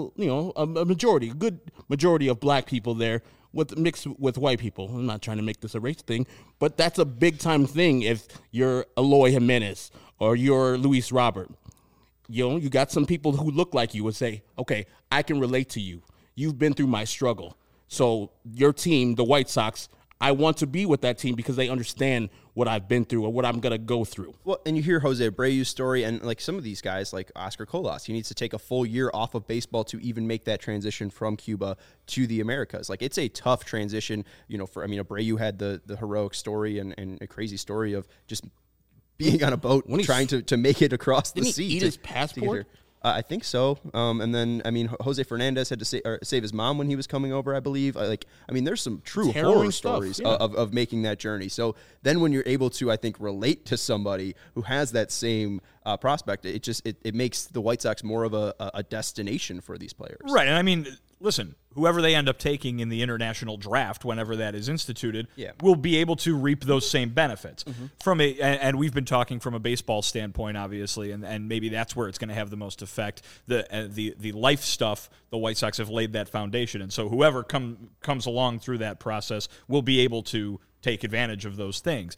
a good majority of black people there mixed with white people. I'm not trying to make this a race thing, but that's a big time thing if you're Eloy Jimenez or you're Luis Robert. You got some people who look like you would say, okay, I can relate to you. You've been through my struggle. So your team, the White Sox, I want to be with that team because they understand what I've been through or what I'm going to go through. Well, and you hear Jose Abreu's story, and like some of these guys, like Oscar Colas, he needs to take a full year off of baseball to even make that transition from Cuba to the Americas. Like, it's a tough transition, Abreu had the heroic story and a crazy story of just being on a boat trying to make it across the sea. Didn't he eat his passport? I think so. And then, Jose Fernandez had to save his mom when he was coming over, I believe. There's some true horror stories of making that journey. So then when you're able to, I think, relate to somebody who has that same prospect, it makes the White Sox more of a destination for these players. Right. And listen, whoever they end up taking in the international draft, whenever that is instituted, will be able to reap those same benefits. Mm-hmm. And we've been talking from a baseball standpoint, obviously, and maybe that's where it's going to have the most effect. The life stuff, the White Sox have laid that foundation, and so whoever comes along through that process will be able to take advantage of those things.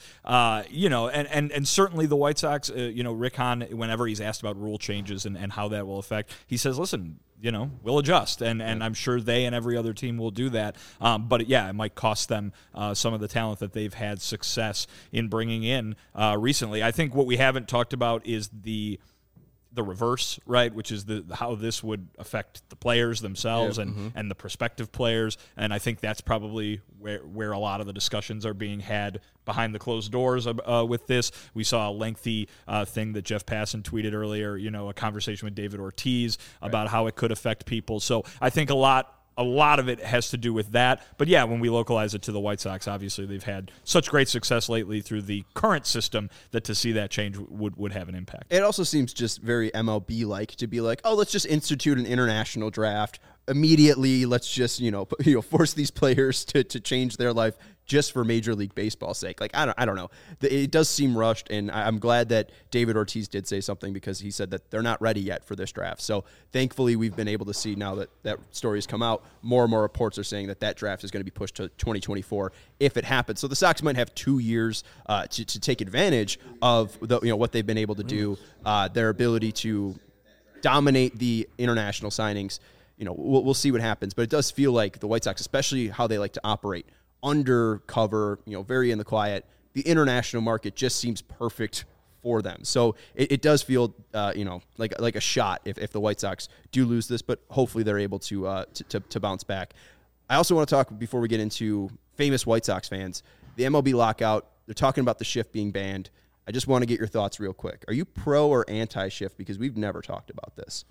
And certainly the White Sox, Rick Hahn, whenever he's asked about rule changes and how that will affect, he says, listen, we'll adjust. And I'm sure they and every other team will do that. But it might cost them some of the talent that they've had success in bringing in recently. I think what we haven't talked about is the reverse, right, which is how this would affect the players themselves and the prospective players. And I think that's probably where a lot of the discussions are being had behind the closed doors with this. We saw a lengthy thing that Jeff Passan tweeted earlier, a conversation with David Ortiz about how it could affect people. So I think a lot of it has to do with that. But when we localize it to the White Sox, obviously they've had such great success lately through the current system that to see that change would have an impact. It also seems just very MLB-like to be like, oh, let's just institute an international draft. Immediately, let's just, force these players to change their life just for Major League Baseball's sake. Like, I don't know. It does seem rushed, and I'm glad that David Ortiz did say something because he said that they're not ready yet for this draft. So thankfully, we've been able to see now that story has come out, more and more reports are saying that draft is going to be pushed to 2024 if it happens. So the Sox might have 2 years to take advantage of what they've been able to do, their ability to dominate the international signings. We'll see what happens, but it does feel like the White Sox, especially how they like to operate undercover, very in the quiet, the international market just seems perfect for them. So it does feel, like a shot if the White Sox do lose this, but hopefully they're able to bounce back. I also want to talk, before we get into famous White Sox fans, the MLB lockout, they're talking about the shift being banned. I just want to get your thoughts real quick. Are you pro or anti-shift? Because we've never talked about this.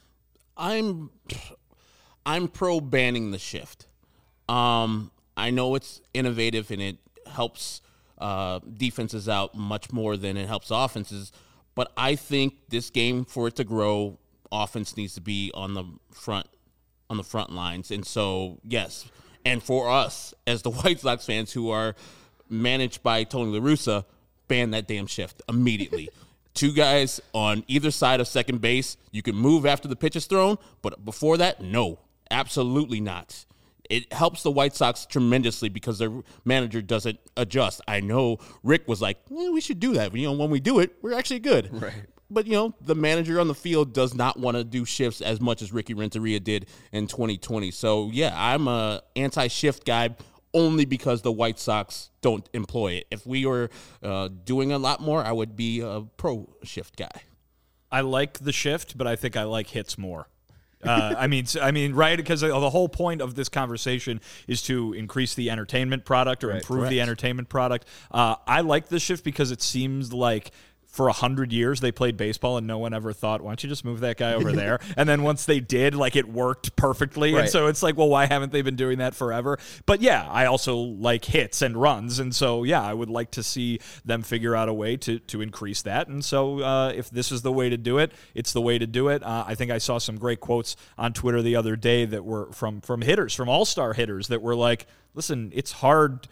I'm pro banning the shift. I know it's innovative and it helps defenses out much more than it helps offenses, but I think this game, for it to grow, offense needs to be on the front lines. And so, yes, and for us as the White Sox fans who are managed by Tony La Russa, ban that damn shift immediately. 2 guys on either side of second base. You can move after the pitch is thrown, but before that, no, absolutely not. It helps the White Sox tremendously because their manager doesn't adjust. I know Rick was like, we should do that. When we do it, we're actually good. Right. But, the manager on the field does not want to do shifts as much as Ricky Renteria did in 2020. So, yeah, I'm a anti-shift guy only because the White Sox don't employ it. If we were doing a lot more, I would be a pro-shift guy. I like the shift, but I think I like hits more. Right? Because the whole point of this conversation is to increase the entertainment product or improve the entertainment product. I like the shift because it seems like for 100 years they played baseball and no one ever thought, why don't you just move that guy over there? And then once they did, like, it worked perfectly. Right. And so it's like, well, why haven't they been doing that forever? But yeah, I also like hits and runs. And so, yeah, I would like to see them figure out a way to increase that. And so if this is the way to do it, it's the way to do it. I think I saw some great quotes on Twitter the other day that were from hitters, from all-star hitters, that were like, listen, it's hard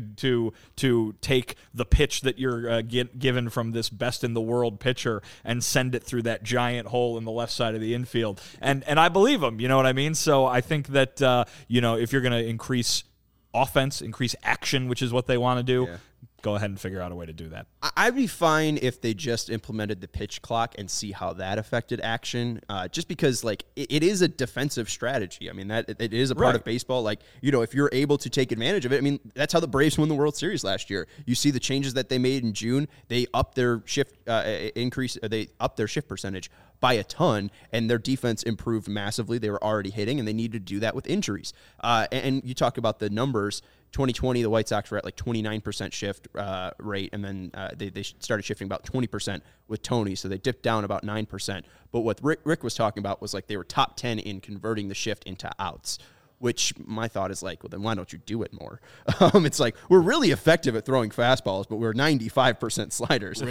to take the pitch that you're given from this best in the world pitcher and send it through that giant hole in the left side of the infield. And I believe him, you know what I mean? So I think that, if you're going to increase offense, increase action, which is what they want to do, go ahead and figure out a way to do that. I'd be fine if they just implemented the pitch clock and see how that affected action. Just because, like, it is a defensive strategy. I mean, that it is a part of baseball. Like, if you're able to take advantage of it. I mean, that's how the Braves won the World Series last year. You see the changes that they made in June. They upped their shift They upped their shift percentage by a ton, and their defense improved massively. They were already hitting, and they needed to do that with injuries. And you talk about the numbers. 2020, the White Sox were at like 29% shift rate, and then they started shifting about 20% with Tony, so they dipped down about 9%. But what Rick was talking about was like they were top 10 in converting the shift into outs, which my thought is like, well, then why don't you do it more? It's like, we're really effective at throwing fastballs, but we're 95% sliders.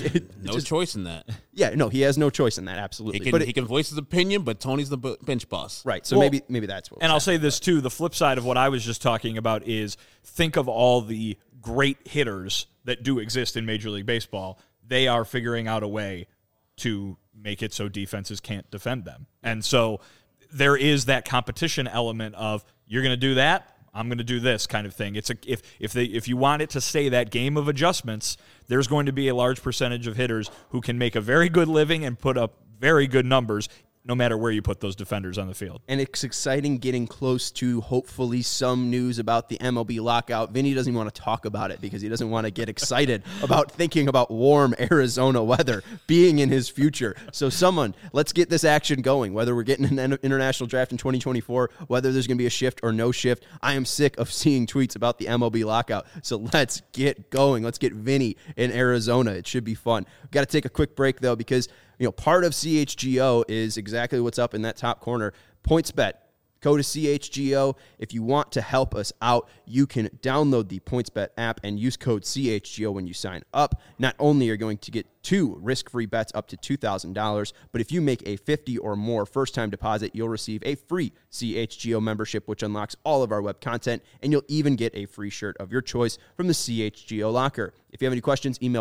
No choice in that. Yeah, no, he has no choice in that, absolutely. He can voice his opinion, but Tony's the bench boss. Right, so maybe that's what. And I'll say this, too. The flip side of what I was just talking about is think of all the great hitters that do exist in Major League Baseball. They are figuring out a way to make it so defenses can't defend them. And so there is that competition element of, you're going to do that, I'm going to do this kind of thing. It's if you want it to stay that game of adjustments, there's going to be a large percentage of hitters who can make a very good living and put up very good numbers, no matter where you put those defenders on the field. And it's exciting getting close to, hopefully, some news about the MLB lockout. Vinny doesn't even want to talk about it because he doesn't want to get excited about thinking about warm Arizona weather being in his future. So let's get this action going, whether we're getting an international draft in 2024, whether there's going to be a shift or no shift. I am sick of seeing tweets about the MLB lockout. So let's get going. Let's get Vinny in Arizona. It should be fun. We've got to take a quick break, though, because part of CHGO is exactly what's up in that top corner. PointsBet. Go to CHGO. If you want to help us out, you can download the PointsBet app and use code CHGO when you sign up. Not only are you going to get 2 risk-free bets up to $2,000, but if you make a 50 or more first-time deposit, you'll receive a free CHGO membership, which unlocks all of our web content, and you'll even get a free shirt of your choice from the CHGO locker. If you have any questions, email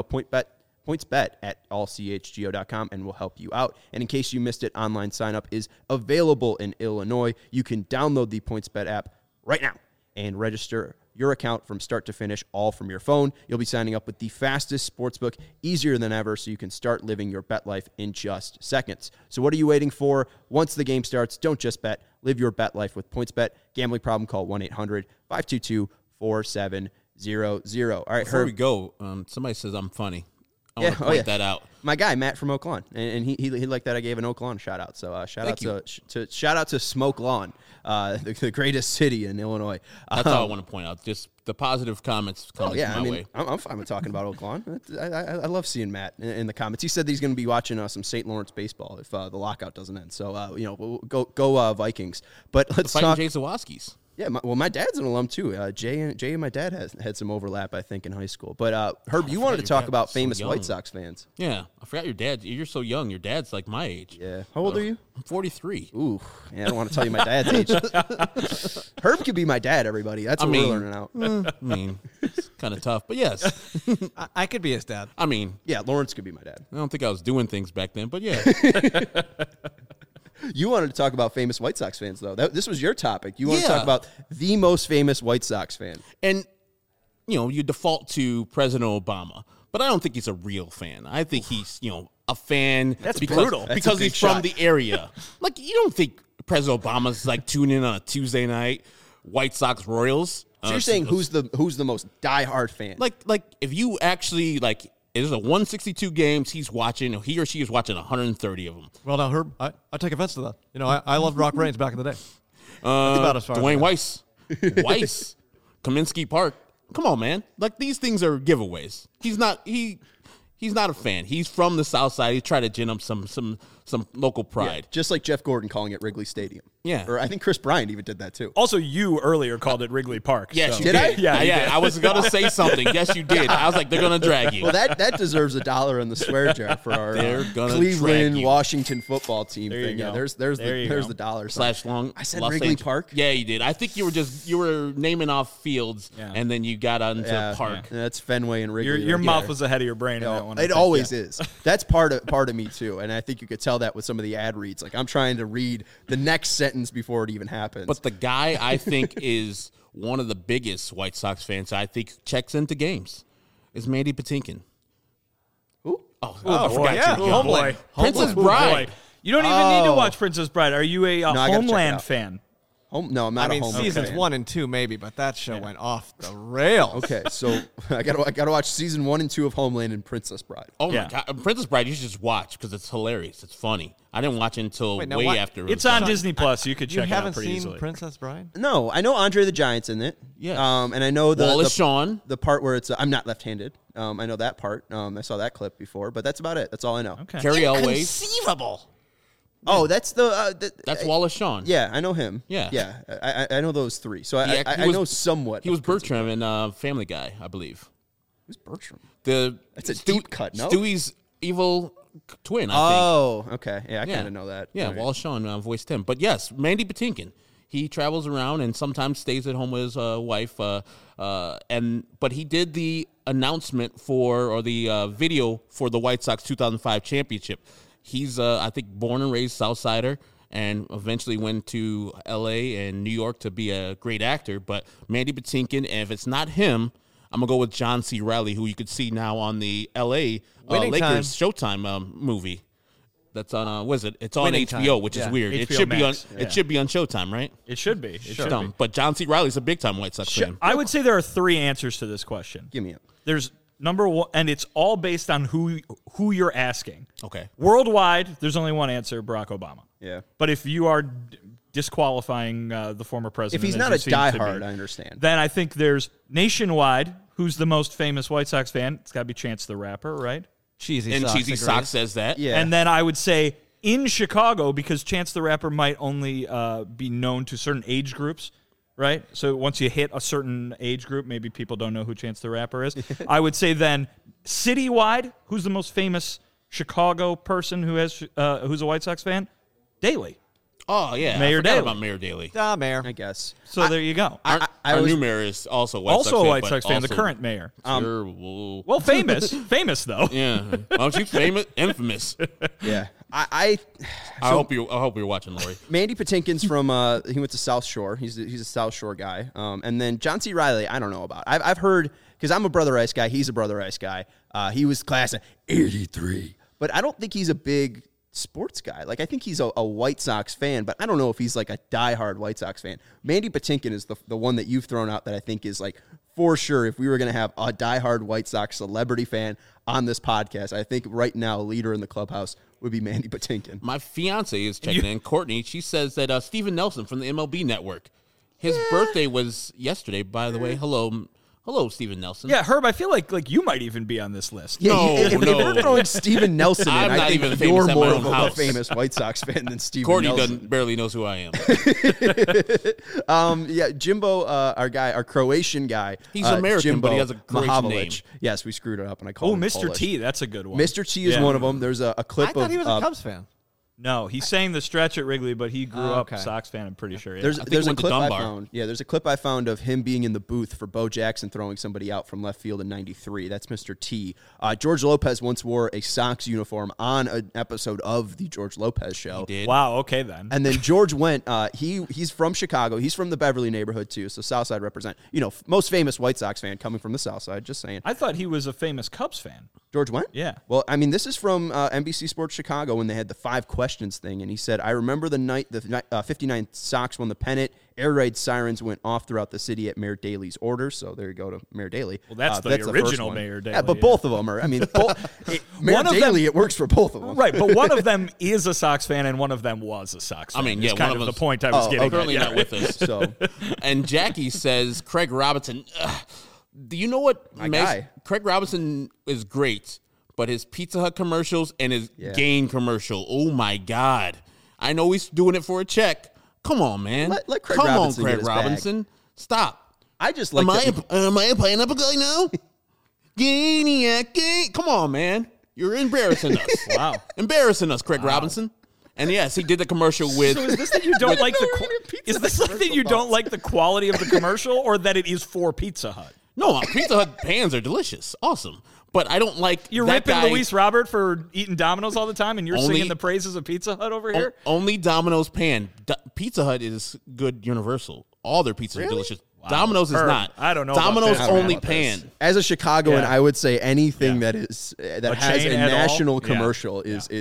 pointsbet@allchgo.com and we'll help you out. And in case you missed it, online sign-up is available in Illinois. You can download the PointsBet app right now and register your account from start to finish, all from your phone. You'll be signing up with the fastest sportsbook, easier than ever, so you can start living your bet life in just seconds. So what are you waiting for? Once the game starts, don't just bet. Live your bet life with PointsBet. Gambling problem, call 1-800-522-4700. All right, Before we go, somebody says I'm funny. I want to point that out. My guy, Matt from Oak Lawn, and he liked that I gave an Oak Lawn shout out. So shout out to Smoke Lawn, the greatest city in Illinois. That's all I want to point out. Just the positive comments coming my way. I'm fine with talking about Oak Lawn. I love seeing Matt in the comments. He said that he's going to be watching some St. Lawrence baseball if the lockout doesn't end. So we'll go Vikings. But let's talk. Jay Zawaski's. Yeah, my dad's an alum too. Jay and my dad had some overlap, I think, in high school. But Herb, you wanted to talk about famous White Sox fans. Yeah, I forgot your dad. You're so young. Your dad's like my age. Yeah. How old are you? I'm 43. Ooh, yeah, I don't want to tell you my dad's age. Herb could be my dad, everybody. That's what we're learning out. It's kind of tough, but yes. I could be his dad. Yeah, Lawrence could be my dad. I don't think I was doing things back then, but yeah. You wanted to talk about famous White Sox fans, though. This was your topic. You want to talk about the most famous White Sox fan. And, you default to President Obama, but I don't think he's a real fan. I think he's, a fan. That's brutal. Because he's from the area. Like, you don't think President Obama's, like, tuning in on a Tuesday night, White Sox Royals. So you're saying who's the most diehard fan? Like if you actually, like, there's a 162 games he or she is watching 130 of them. Well, now, Herb, I take offense to that. I loved Rock Reigns back in the day. About as far Dwayne Weiss, Kaminsky Park. Come on, man. Like, these things are giveaways. He's He's not a fan. He's from the South Side. He's trying to gin up some local pride. Just like Jeff Gordon calling it Wrigley Stadium. Yeah. Or I think Chris Bryant even did that too. Also, you earlier called it Wrigley Park. Yes, so. you Did I? did. Yeah, you did. I was going to say something. Yes, you did. I was like, they're going to drag you. Well, that deserves $1 in the swear jar for our They're gonna drag Cleveland you. Washington football team There you thing. Yeah, go. there's There you the go. dollar Slash long. I said Los Wrigley Angeles. Park. Yeah, you did. I think you were naming off fields, Yeah. and then you got onto Park. That's Fenway and Wrigley. Your right mouth there. was ahead of your brain in that one. I It think. always is. That's part of me too, and I think you could tell that with some of the ad reads. Like I'm trying to read the next sentence before it even happens. But the guy I think is one of the biggest White Sox fans I think checks into games is Mandy Patinkin. Who? Oh, Oh, I forgot yeah. you. Oh, boy. Princess Oh, boy. Bride. You don't even need to Oh. watch Princess Bride. Are you a I gotta check it Homeland out. fan? Home? No, I'm not I mean, a home seasons fan. 1 and 2 maybe, but that show went off the rails. Okay, so I gotta watch season 1 and 2 of Homeland and Princess Bride. Oh Yeah. my God, Princess Bride! You should just watch because it's hilarious. It's funny. I didn't watch it until Wait, now way what? after. It was It's on done. Disney Plus. You could You check it out haven't pretty seen easily. Princess Bride? No, I know Andre the Giant's in it. Yes. And I know Wallace Shawn. the part where it's I'm not left-handed. I know that part. I saw that clip before, but that's about it. That's all I know. Okay. Carrie Elways. Conceivable. Oh, that's That's Wallace Shawn. Yeah, I know him. Yeah. yeah. I know those three. So He I was- know somewhat. He was Bertram in Family Guy, I believe. Who's Bertram? That's a deep cut, no? Stewie's evil twin, I think. Oh, okay. Yeah, I kind of know that. Yeah, All right. Wallace Shawn voiced him. But yes, Mandy Patinkin. He travels around and sometimes stays at home with his wife. But he did the announcement or the video for the White Sox 2005 championship. He's, I think, born and raised Southsider and eventually went to L.A. and New York to be a great actor. But Mandy Patinkin, and if it's not him, I'm going to go with John C. Reilly, who you could see now on the L.A. Winning Lakers Showtime movie. That's on what is it? It's on Winning HBO, Time. which is Yeah. weird. It HBO should be on. Max, yeah. It should be on Showtime, right? It should be. It should Dumb. be. But John C. Reilly's a big time White Sox fan. I would say there are three answers to this question. Give me it. There's number one, and it's all based on who you're asking. Okay. Worldwide, there's only one answer: Barack Obama. Yeah. But if you are disqualifying the former president, If he's as not you a seem to diehard, be, I understand. then I think there's nationwide. Who's the most famous White Sox fan? It's got to be Chance the Rapper, right? Cheesy And Sox Cheesy agrees. Sox says that. Yeah. And then I would say in Chicago, because Chance the Rapper might only be known to certain age groups, right? So once you hit a certain age group, maybe people don't know who Chance the Rapper is. I would say then citywide, who's the most famous Chicago person who's a White Sox fan? Daley. Oh yeah. Mayor I forgot Daley. about Mayor Daley. Mayor. I guess. So there you go. Our new mayor is also a White Sox Also a fan, White but Sox fan, the also current mayor. terrible. Well, famous though. Yeah. Aren't you famous? Infamous. Yeah. I I hope you're watching, Lori. Mandy Patinkin's from he went to South Shore. He's a South Shore guy. And then John C. Reilly, I don't know about. I've heard because I'm a Brother Ice guy. He's a Brother Ice guy. He was class of '83, but I don't think he's a big sports guy. Like I think he's a White Sox fan, but I don't know if he's like a diehard White Sox fan. Mandy Patinkin is the one that you've thrown out that I think is like for sure. If we were going to have a diehard White Sox celebrity fan on this podcast, I think right now leader in the clubhouse would be Mandy Patinkin. My fiance is checking in. Courtney, she says that Steven Nelson from the MLB Network. His birthday was yesterday, by the way. Hello, Steven Nelson. Yeah, Herb, I feel like you might even be on this list. Yeah, No, if no. you're throwing Steven Nelson in, I'm I not think even you're famous at more my of own a house. famous White Sox fan than Steven Courtney Nelson. barely knows who I am. Yeah, Jimbo, our Croatian guy. He's American, Jimbo but he has a Croatian Mahavlich. name. Yes, we screwed it up, and I called Oh, him Mr. Polish. T, that's a good one. Mr. T is Yeah. one of them. There's a clip I thought of he was a Cubs fan. No, he sang the stretch at Wrigley, but he grew up okay. Sox fan, I'm pretty sure. Yeah. There's he a went to clip I Dunbar. found. Yeah, there's a clip I found of him being in the booth for Bo Jackson throwing somebody out from left field in '93. That's Mr. T. George Lopez once wore a Sox uniform on an episode of the George Lopez show. Did. Wow, okay then. And then George went. He's from Chicago. He's from the Beverly neighborhood too. So Southside represent. Most famous White Sox fan coming from the Southside. Just saying. I thought he was a famous Cubs fan. George went. Yeah. Well, I mean, this is from NBC Sports Chicago when they had the 5 questions thing, and he said, "I remember the night the 59 Sox won the pennant. Air raid sirens went off throughout the city at Mayor Daley's orders." So there you go to Mayor Daley. Well, that's the first original one. Mayor Yeah, Daley, but yeah. both of them are. I mean, Mayor One of them- Daley. It works for both of them. Right, but one of them is a Sox fan and one of them was a Sox fan. I mean, Is yeah, kind one of of the us- point I was getting Currently at. not with us. So And Jackie says Craig Robinson. Do you know what? My guy. Craig Robinson is great, but his Pizza Hut commercials and his Gain commercial, oh my God. I know he's doing it for a check. Come on, man. Let Craig Come Robinson on, get Craig his Robinson. bag. Stop. I just like Am I a pineapple guy now? Gainiac, Gain. Come on, man. You're embarrassing us. Wow. Embarrassing us, Craig Robinson. And yes, he did the commercial with. So is this that you don't like is this like that you don't like the quality of the commercial, or that it is for Pizza Hut? No, Pizza Hut pans are delicious. Awesome. But I don't like You're that ripping guy. Luis Robert for eating Domino's all the time, and you're Only- singing the praises of Pizza Hut over here? Only Domino's pan. Pizza Hut is good universal. All their pizzas are delicious. Domino's is Herb, not. I don't know about Domino's this. I don't know only about pan. as a Chicagoan, Yeah. I would say anything that is that has chain a at all? national Yeah. commercial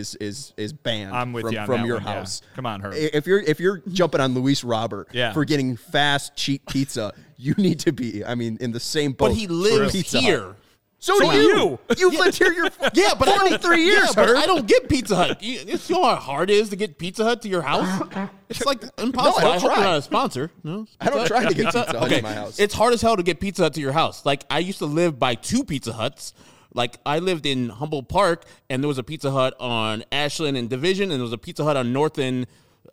is banned I'm with from, you on from that your one, yeah. house. Come on, Herb. If you're jumping on Luis Robert Yeah. for getting fast, cheap pizza, you need to be, I mean, in the same boat. But he for lives Pizza Hut. here. So do you. You've lived here your Yeah, but I don't, 43 years, yeah, but Herb. I don't get Pizza Hut. It's you know how hard it is to get Pizza Hut to your house. It's like impossible. don't I hope try. you're not a sponsor. No, I don't try to get Pizza Hut okay. in my house. It's hard as hell to get Pizza Hut to your house. Like I used to live by 2 Pizza Huts. Like I lived in Humboldt Park, and there was a Pizza Hut on Ashland and Division, and there was a Pizza Hut on North and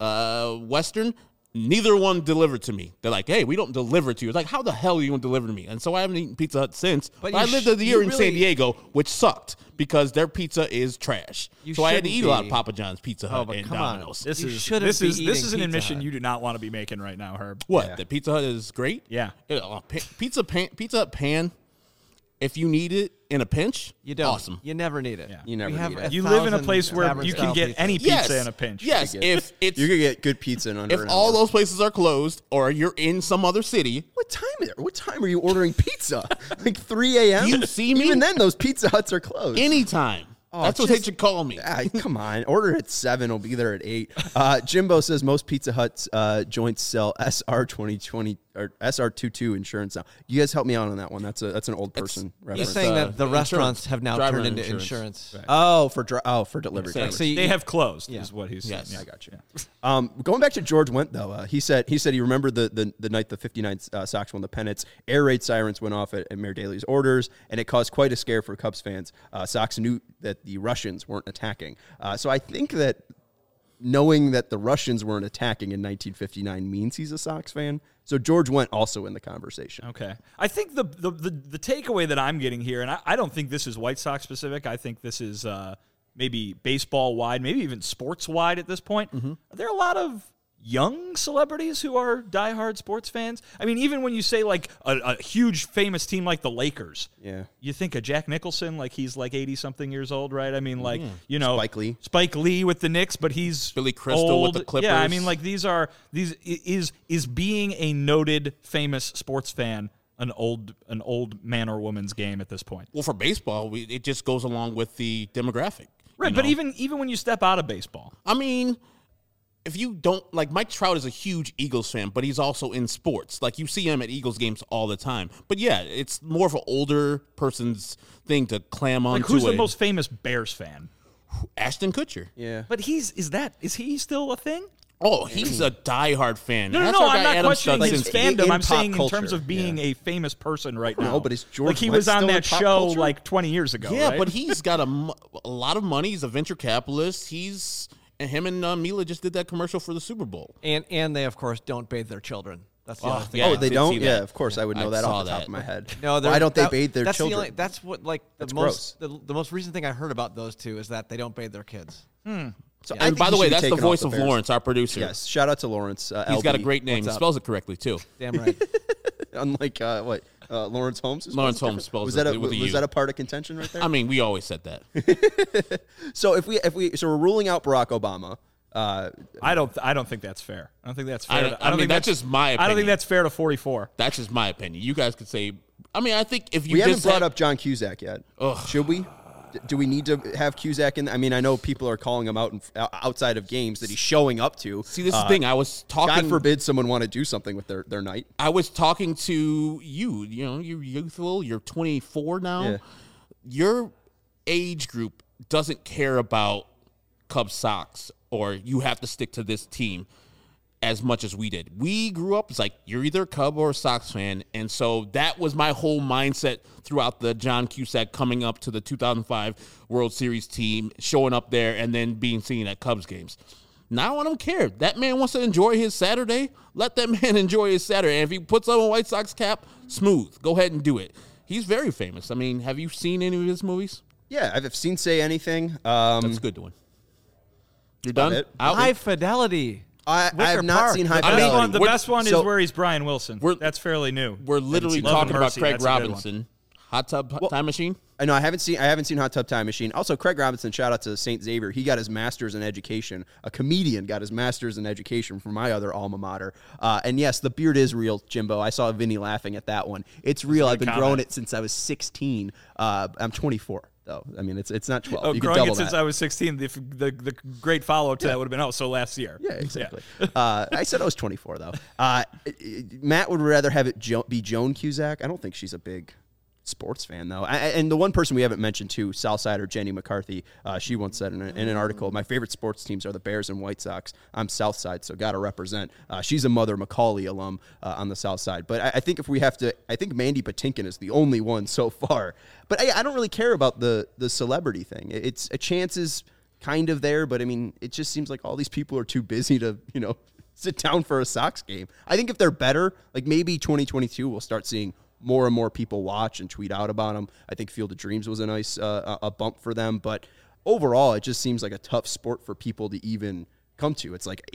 Western. Neither one delivered to me. They're like, "Hey, we don't deliver to you." It's like, how the hell are you going to deliver to me? And so I haven't eaten Pizza Hut since. But you I lived sh- a year you in really- San Diego, which sucked because their pizza is trash. You So I had to shouldn't eat a lot of be. Papa John's, Pizza Hut, but and come on. Domino's. This You is shouldn't this be is this is an eating Pizza admission Hut. you do not want to be making right now, Herb. What? Yeah. That Pizza Hut is great? Yeah. Pizza Hut pan, if you need it in a pinch, You don't. awesome. You never need it. Yeah. You never We have need it. You live in a 1,000 place where tavern you can style get pizzas. any pizza in a pinch. Yes, if it's You're gonna get good pizza in under if an all hour. those places are closed or you're in some other city, What time are you ordering pizza? Like 3 a.m. You see me? Even then, those Pizza Huts are closed. anytime. That's what they should call me. Come on, order at 7. It'll be there at 8. Jimbo says most Pizza Hut's joints sell SR 2020 or SR 22 insurance now. You guys help me out on that one. That's an old person He's reference. saying that the insurance. restaurants have now Driver turned into insurance. insurance. For delivery. Yes. drivers. So you- They have closed, Yeah. is what he's saying. Yes. Yeah. I got you. Going back to George Wendt though, he said he remembered the night the 59 Sox won the pennants. Air raid sirens went off at Mayor Daley's orders, and it caused quite a scare for Cubs fans. Sox knew that the Russians weren't attacking, so I think that knowing that the Russians weren't attacking in 1959 means he's a Sox fan. So George Wendt also in the conversation. Okay. I think the takeaway that I'm getting here, and I don't think this is White Sox specific. I think this is maybe baseball wide, maybe even sports wide at this point. Mm-hmm. Are there a lot of young celebrities who are diehard sports fans? I mean, even when you say like a huge famous team like the Lakers, Yeah. you think of Jack Nicholson, like he's like 80-something years old, right? I mean, like, you know, Spike Lee. with the Knicks, but he's Billy Crystal with old. the Clippers. Yeah, I mean, like is being a noted famous sports fan an old man or woman's game at this point? Well, for baseball, it just goes along with the demographic. Right, you but know? even when you step out of baseball, I mean, if you don't like Mike Trout is a huge Eagles fan, but he's also in sports. Like you see him at Eagles games all the time. But yeah, it's more of an older person's thing to clam on like to who's the it. most famous Bears fan? Ashton Kutcher. Yeah. But is he still a thing? Oh, he's a diehard fan. No, That's no, our I'm guy, not Adam questioning his Studzinski. fandom. in I'm pop saying in culture, terms of being yeah. a famous person right now. know, but is George like he Wendt was on still in that pop show culture? like 20 years ago. Yeah, right? but he's got a lot of money. He's a venture capitalist. And him and Mila just did that commercial for the Super Bowl. And they, of course, don't bathe their children. That's the other thing. yeah. Oh, I they did don't? see Yeah, that. of course. I would know I that saw off the top that. of my head. No, Why don't they bathe their that's children? That's what like the That's most the most recent thing I heard about those two is that they don't bathe their kids. So And by the way, that's the voice of Bears. Lawrence, our producer. Yes, shout out to Lawrence. He's got a great name. He What's up? spells it correctly, too. Damn right. Unlike Lawrence Holmes. who Lawrence spells it Holmes spells was it that with a U. was that a part of contention right there? I mean, we always said that. So if we're ruling out Barack Obama. I don't think that's fair. I don't think that's fair. I don't think mean, that's just my I don't think opinion. that's fair to 44. That's just my opinion. You guys could say. I mean, I think if you We haven't just brought had- up John Cusack yet. Ugh. Should we? Do we need to have Cusack in? I mean, I know people are calling him out outside of games that he's showing up to. See, this is the thing. I was talking. God forbid someone want to do something with their night. I was talking to you. You know, you're youthful. You're 24 now. Yeah. Your age group doesn't care about Cubs Sox or you have to stick to this team. as much as we did. We grew up, it's like, you're either a Cub or a Sox fan, and so that was my whole mindset throughout the John Cusack coming up to the 2005 World Series team, showing up there, and then being seen at Cubs games. Now I don't care. That man wants to enjoy his Saturday. Let that man enjoy his Saturday. And if he puts on a White Sox cap, smooth. Go ahead and do it. He's very famous. I mean, have you seen any of his movies? Yeah, I've seen Say Anything. That's a good one. You're done? it. Out? High Fidelity. I have not Park. seen High The best Fidelity. one, the best one is So- where he's Brian Wilson. That's fairly new. We're literally Love and talking about Mercy, Craig that's a good one. Robinson. Hot Tub Time Machine? I know I haven't seen Hot Tub Time Machine. Also, Craig Robinson, shout out to St. Xavier. He got his master's in education. A comedian got his master's in education from my other alma mater. And yes, the beard is real, Jimbo. I saw Vinny laughing at that one. It's real. I've been comment. growing it since I was 16. I'm 24 though. I mean, it's not 12. Oh, You can growing double it since that. I was 16. The great follow up to that would have been so last year. Yeah, exactly. I said I was 24 though. Matt would rather have it be Joan Cusack. I don't think she's a big sports fan though. And the one person we haven't mentioned too, Southsider Jenny McCarthy, she once said in an article, my favorite sports teams are the Bears and White Sox. I'm Southside, so got to represent. She's a Mother Macaulay alum on the South Side. But I think if we have to, I think Mandy Patinkin is the only one so far. But I don't really care about the celebrity thing. It's a chance is kind of there, but I mean, it just seems like all these people are too busy to, sit down for a Sox game. I think if they're better, like maybe 2022, we'll start seeing more and more people watch and tweet out about them. I think Field of Dreams was a nice a bump for them. But overall, it just seems like a tough sport for people to even come to. It's like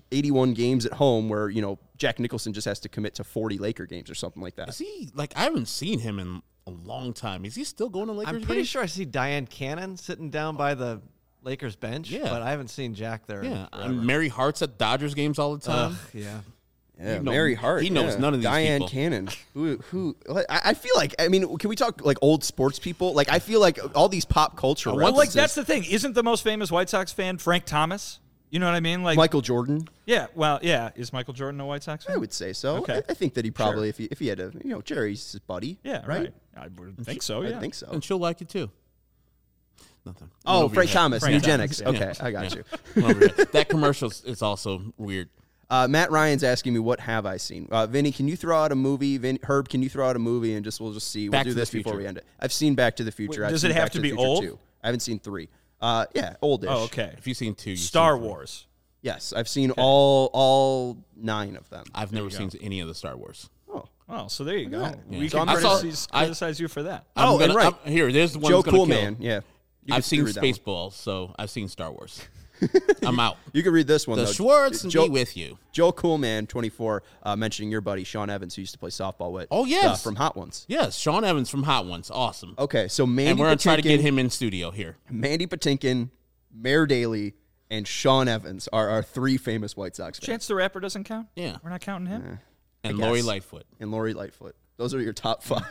81 games at home where, Jack Nicholson just has to commit to 40 Laker games or something like that. Is he, I haven't seen him in a long time. Is he still going to Lakers I'm pretty games? sure I see Diane Cannon sitting down by the Lakers bench, Yeah. but I haven't seen Jack there. Yeah. forever. Mary Hart's at Dodgers games all the time. Yeah. Yeah, He knows- Mary Hart. he knows yeah. none of these Diane people. Cannon. Who? I feel like, can we talk like old sports people? Like, I feel like all these pop culture Well, references. that's the thing. Isn't the most famous White Sox fan Frank Thomas? You know what I mean? Like Michael Jordan. Yeah. Well, yeah. Is Michael Jordan a White Sox fan? I would say so. Okay. I think that he probably, if he had a, Jerry's his buddy. Yeah. Right. I would think so. Yeah. I think so. And she'll like it too. Nothing. Oh, Went over Frank your head. Thomas, Frank eugenics. Thomas, Okay, I got you. Went over your head. That commercial is also weird. Matt Ryan's asking me, what have I seen? Vinny, can you throw out a movie? Herb, can you throw out a movie and we'll just see. Back We'll do to the this before Future. we end it. I've seen Back to the Future. Wait, I've does seen it have Back to the be Future old? 2. I haven't seen 3. Yeah, oldish. Oh, okay. If you've seen 2, you've Star seen 3. Wars. Yes, I've seen all 9 of them. I've never seen any of the Star Wars. Oh, Oh, so there you go. We So can I'm gonna- criticize you for that. I'm and right. There's the one Joe that's gonna kill. Coolman. Yeah, You I've could seen read that one. Spaceballs, so I've seen Star Wars. I'm out. You can read this one. The though. Schwartz Joe, be with you. Joe Coolman, 24, mentioning your buddy Sean Evans, who used to play softball with. Oh, yes. from Hot Ones. Yes, Sean Evans from Hot Ones. Awesome. Okay, so Mandy And we're going to try to get Patinkin- him in studio here. Mandy Patinkin, Mayor Daley, and Sean Evans are our 3 famous White Sox fans. Chance the Rapper doesn't count? Yeah. We're not counting him? And guess. Lori Lightfoot. And Lori Lightfoot. Those are your top 5.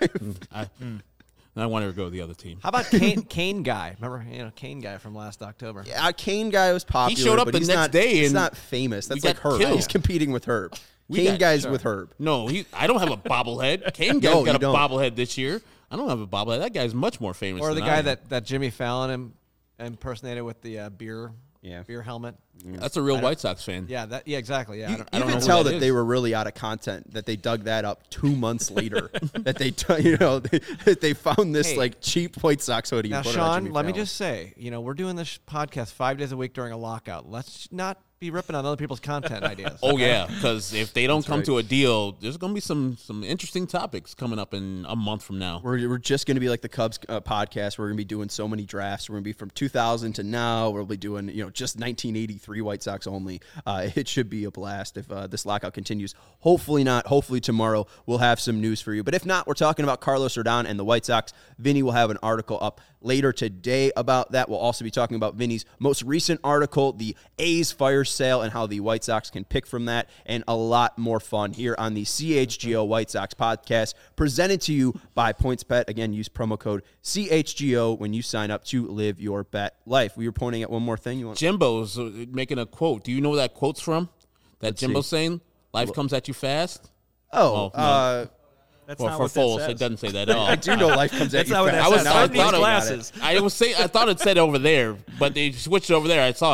I want her to go to the other team. How about Kane Guy? Remember, Kane Guy from last October. Yeah, Kane guy was popular. showed up but the he's next not, day He's and not famous. That's we like got Herb. killed. He's competing with Herb. Kane guy's with Herb. No, I don't have a bobblehead. Kane No, guy's got you a don't. bobblehead this year. I don't have a bobblehead. That guy's much more famous Or than the I guy am. that Jimmy Fallon impersonated with the beer helmet. That's a real White Sox fan. Yeah, exactly. Yeah, You, I don't you know can who tell that that is. they were really out of content, that they dug that up 2 months later, that they found this Hey. like cheap White Sox hoodie. Now, and put it on Sean, Jimmy let me Fallon. just say, we're doing this podcast 5 days a week during a lockout. Let's not be ripping on other people's content ideas. Oh yeah, because if they don't come right. to a deal, there's going to be some interesting topics coming up in a month from now. We're just going to be like the Cubs podcast. We're going to be doing so many drafts. We're going to be from 2000 to now. We'll be doing just 1983 White Sox only. It should be a blast if this lockout continues. Hopefully not. Hopefully tomorrow we'll have some news for you. But if not, we're talking about Carlos Rodon and the White Sox. Vinny will have an article up later today about that. We'll also be talking about Vinny's most recent article, the A's fire sale, and how the White Sox can pick from that, and a lot more fun here on the CHGO White Sox podcast, presented to you by PointsBet. Again, use promo code CHGO when you sign up to live your bet life. We were pointing at one more thing. You want? Jimbo's making a quote. Do you know where that quote's from? That Jimbo's see. saying, "Life comes at you fast." Oh, no. That's Well, not for what that Foles, says. it doesn't say that at all. I do know life comes at That's you not what fast. that says. Now I Turn these thought I got glasses. it. I thought it said over there, but they switched over there. I saw it.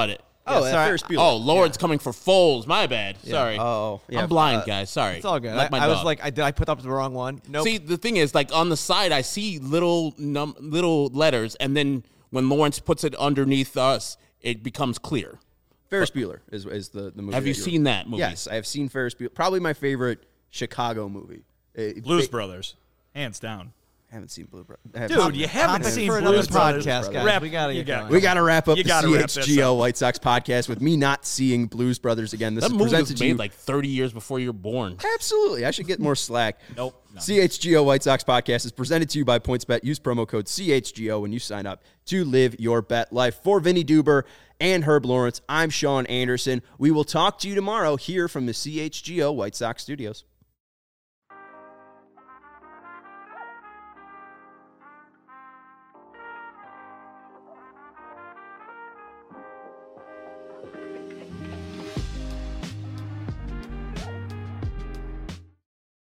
Oh, Yeah, sorry. Ferris Bueller. Oh, Lawrence coming for Foles. My bad. Sorry. Oh, yeah. I'm blind, guys. Sorry. It's all good. Like my I was dog. like, did I put up the wrong one? Nope. See, the thing is, like on the side, I see little letters, and then when Lawrence puts it underneath us, it becomes clear. Ferris Bueller is the movie. Have you that you're- seen that movie? Yes, I have seen Ferris Bueller. Probably my favorite Chicago movie. Blues Brothers, hands down. I haven't seen Blue Brothers. Dude, you haven't Topic seen for another Blues Brothers. podcast, guys. Wrap- We gotta you get got- going. We got to wrap up You the gotta wrap this CHGO up. White Sox podcast with me not seeing Blues Brothers again. This That is movie presented was to you. made like 30 years before you were born. Absolutely. I should get more slack. Nope. No. CHGO White Sox podcast is presented to you by PointsBet. Use promo code CHGO when you sign up to live your bet life. For Vinny Duber and Herb Lawrence, I'm Sean Anderson. We will talk to you tomorrow here from the CHGO White Sox studios.